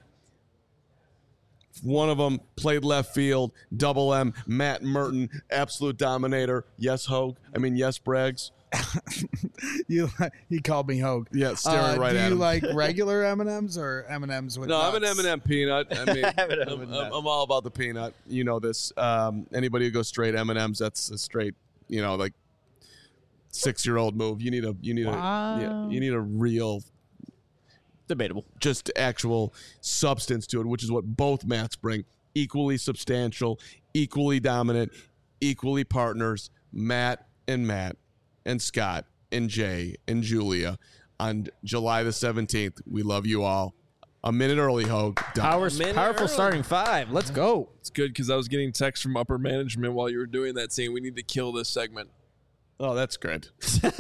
one of them played left field. Double M. Matt Merton, absolute dominator. Yes, Hogue. I mean, yes, Braggs. You he called me Hogue. Yeah, staring Uh, right do at you him. like regular M and M's or M and M's with No, I'm an nuts? M and M peanut. I mean, M&M I'm, with I'm, nuts. I'm all about the peanut. You know this. Um, anybody who goes straight M and M's, that's a straight, you know, like six year old move. You need a, you need a, yeah, Wow. you need a real, Debatable. just actual substance to it, which is what both Matts bring. Equally substantial, equally dominant, equally partners. Matt and Matt and Scott and Jay and Julia on July the seventeenth. We love you all. A minute early, Hogue. Done. Power, Minute powerful early. starting five. Let's go. It's good because I was getting texts from upper management while you were doing that saying we need to kill this segment. Oh, that's good.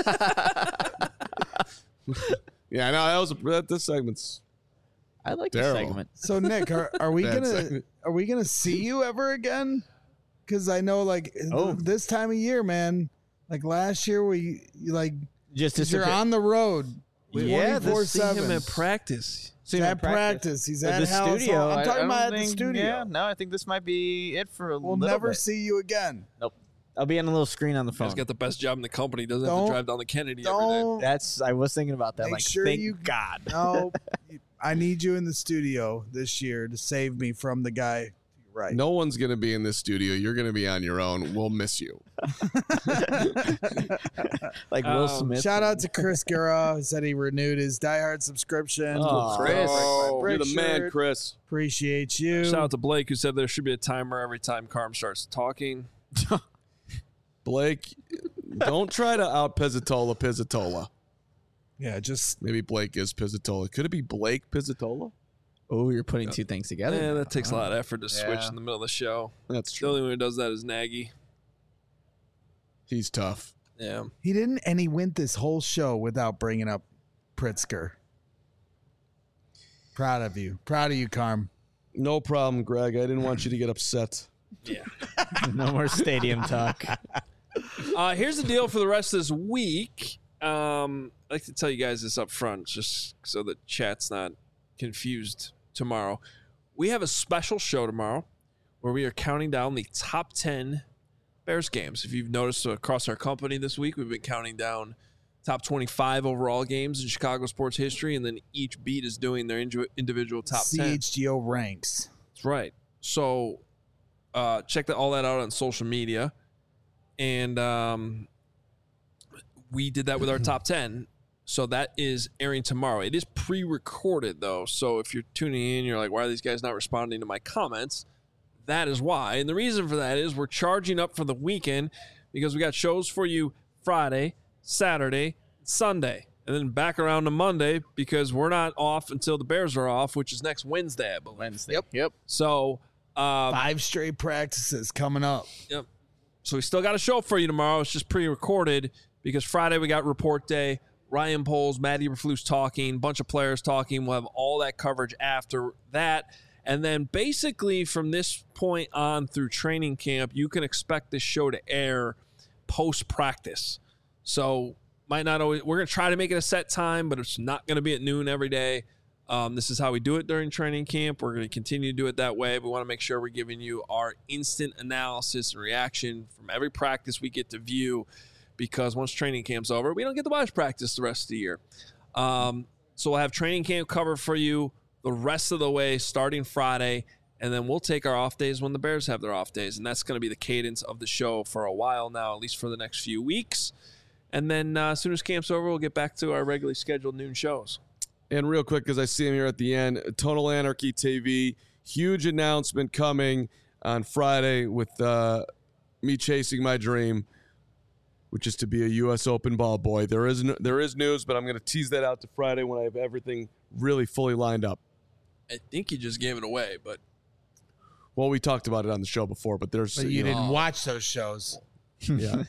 Yeah, no, that was that. This segment's I like the Terrible. segment. So Nick, are, are we Bad gonna segment. are we gonna see you ever again? Because I know, like Oh. this time of year, man. Like last year, we you like Just 'cause you're disappear- on the road. Yeah, twenty-four See him seven. at practice. He's at practice. He's At at the Hallis studio. Hall. I'm I- talking I about don't at the think- studio. Yeah, no, I think this might be it for a We'll little never bit. see you again. Nope. I'll be on a little screen on the phone. He's got the best job in the company. Doesn't have Don't- to drive down the Kennedy every day. Don't. That's. I was thinking about that. Make like, sure thank you- God. No, I need you in the studio this year to save me from the guy. Right. no one's gonna be in this studio. You're gonna be on your own. We'll miss you. Like Will Um, Smith. Shout out to Chris Guerra, who said he renewed his Die Hard subscription. Oh, Chris. Oh, Brick you're the man, shirt. Chris. Appreciate you. Shout out to Blake who said there should be a timer every time Carm starts talking. Blake, don't try to out Pizzatola Pizzatola. Yeah, just Maybe Blake is Pizzatola. Could it be Blake Pizzatola? Oh, you're putting two things together. Yeah, that takes a lot of effort to switch Yeah. in the middle of the show. That's The true. only one who does that is Nagy. He's tough. Yeah. he didn't, and he went this whole show without bringing up Pritzker. Proud of you. Proud of you, Carm. No problem, Greg. I didn't want you to get upset. Yeah. No more stadium talk. Uh, here's the deal for the rest of this week. Um, I'd like to tell you guys this up front, just so the chat's not confused tomorrow. We have a special show tomorrow where we are counting down the top ten Bears games. If you've noticed across our company this week, we've been counting down top twenty-five overall games in Chicago sports history, and then each beat is doing their inju- individual top C ten. H G O ranks. That's right. So uh, check that, all that out on social media. And um, we did that with our top ten. So that is airing tomorrow. It is pre-recorded, though. So if you're tuning in, you're like, why are these guys not responding to my comments? That is why. And the reason for that is we're charging up for the weekend because we got shows for you Friday, Saturday, Sunday. And then back around to Monday because we're not off until the Bears are off, which is next Wednesday, I believe. Wednesday. Yep. Yep. So, uh, Five straight practices coming up. Yep. So we still got a show for you tomorrow. It's just pre-recorded because Friday we got report day. Ryan Poles, Matt Eberflus talking, bunch of players talking. We'll have all that coverage after that. And then basically from this point on through training camp, you can expect this show to air post-practice. So might not always, we're going to try to make it a set time, but it's not going to be at noon every day. Um, this is how we do it during training camp. We're going to continue to do it that way. We want to make sure we're giving you our instant analysis and reaction from every practice we get to view, because once training camp's over, we don't get to watch practice the rest of the year. Um, so we'll have training camp cover for you the rest of the way starting Friday, and then we'll take our off days when the Bears have their off days, and that's going to be the cadence of the show for a while now, at least for the next few weeks. And then uh, as soon as camp's over, we'll get back to our regularly scheduled noon shows. And real quick, because I see him here at the end, Total Anarchy T V, huge announcement coming on Friday with uh, me chasing my dream, which is to be a U S Open ball boy. There is no, there is news, but I'm going to tease that out to Friday when I have everything really fully lined up. I think you just gave it away, but Well, we talked about it on the show before, but there's But you know, didn't watch those shows. yeah,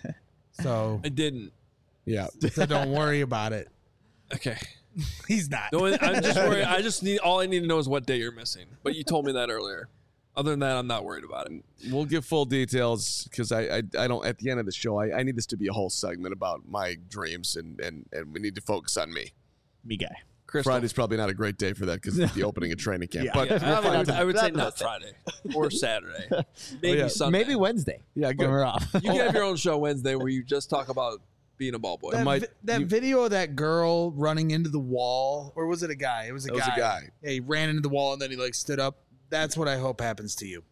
So, I didn't. yeah. so don't worry about it. Okay. He's not. No, I'm just worried. I just need, all I need to know is what day you're missing. But you told me that earlier. Other than that, I'm not worried about it. We'll give full details because I, I I don't at the end of the show I, I need this to be a whole segment about my dreams and and and we need to focus on me. Me guy. Crystal. Friday's probably not a great day for that because it's the opening of training camp. Yeah. but Yeah, I would, I would say Not not Thursday. Friday or Saturday. Maybe yeah. Sunday. Maybe Wednesday. yeah, When good. we're off. You can have your own show Wednesday where you just talk about being a ball boy. That, might- vi- that you- video of that girl running into the wall, or was it a guy? It was a It was guy. a guy. Yeah, he ran into the wall and then he like stood up. That's what I hope happens to you.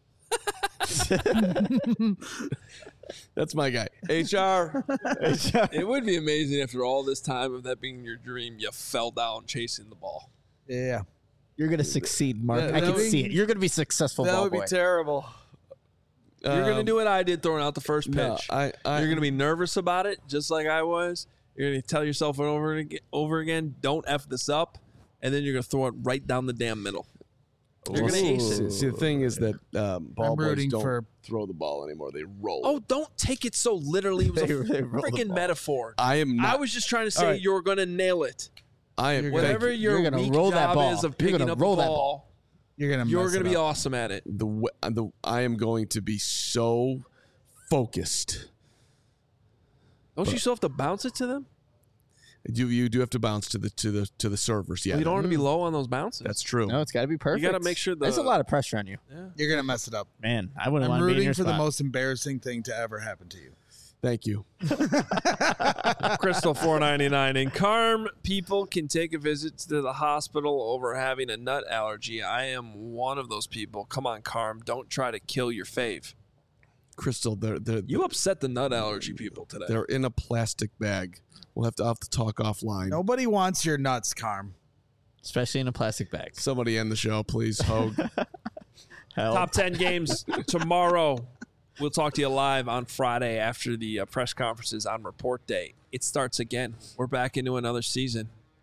That's my guy. H R. It would be amazing after all this time of that being your dream, you fell down chasing the ball. Yeah. You're gonna succeed, Mark. That- I that can would- see it. You're gonna be successful. That ball would be boy. terrible. You're going to Um, do what I did throwing out the first pitch. No, I, I, You're going to be nervous about it, just like I was. You're going to tell yourself over and again, over again, don't F this up. And then you're going to throw it right down the damn middle. You're Well, going to ace see, it. see, the thing is that um, ball I'm boys rooting don't for- throw the ball anymore; they roll. Oh, don't take it so literally. It was a They- they roll the freaking ball. metaphor. I am not. I was just trying to say All right. you're going to nail it. I am. You're thank Whatever you. your You're gonna weak roll that job ball. is of You're picking gonna up roll the that ball, You're gonna you're mess going to it be up. awesome at it. the w- the I am going to be so focused. Don't you still have to bounce it to them? You you do have to bounce to the to the to the servers. Yeah, Well, you don't want to be low on those bounces. that's true. No, it's got to be perfect. gotta make sure the- There's a lot of pressure on you, You're gonna mess it up. man. I wouldn't I'm want to be in rooting your for the spot. most embarrassing thing to ever happen to you. Thank you. Crystal four ninety-nine. And Carm people can take a visit to the hospital over having a nut allergy. I am one of those people. Come on, Carm. Don't try to kill your fave. Crystal, they're they're You upset the nut allergy people today. they're in a plastic bag. We'll have to I'll have to talk offline. Nobody wants your nuts, Carm. especially in a plastic bag. Somebody end the show, please. Hogue. Hell, Top ten games tomorrow. We'll talk to you live on Friday after the uh, press conferences on report day. It starts again. We're back into another season.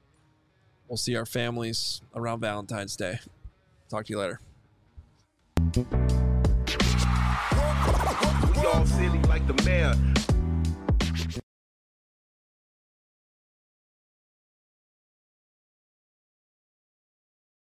we'll see our families around Valentine's Day. Talk to you later. We all silly like the mayor.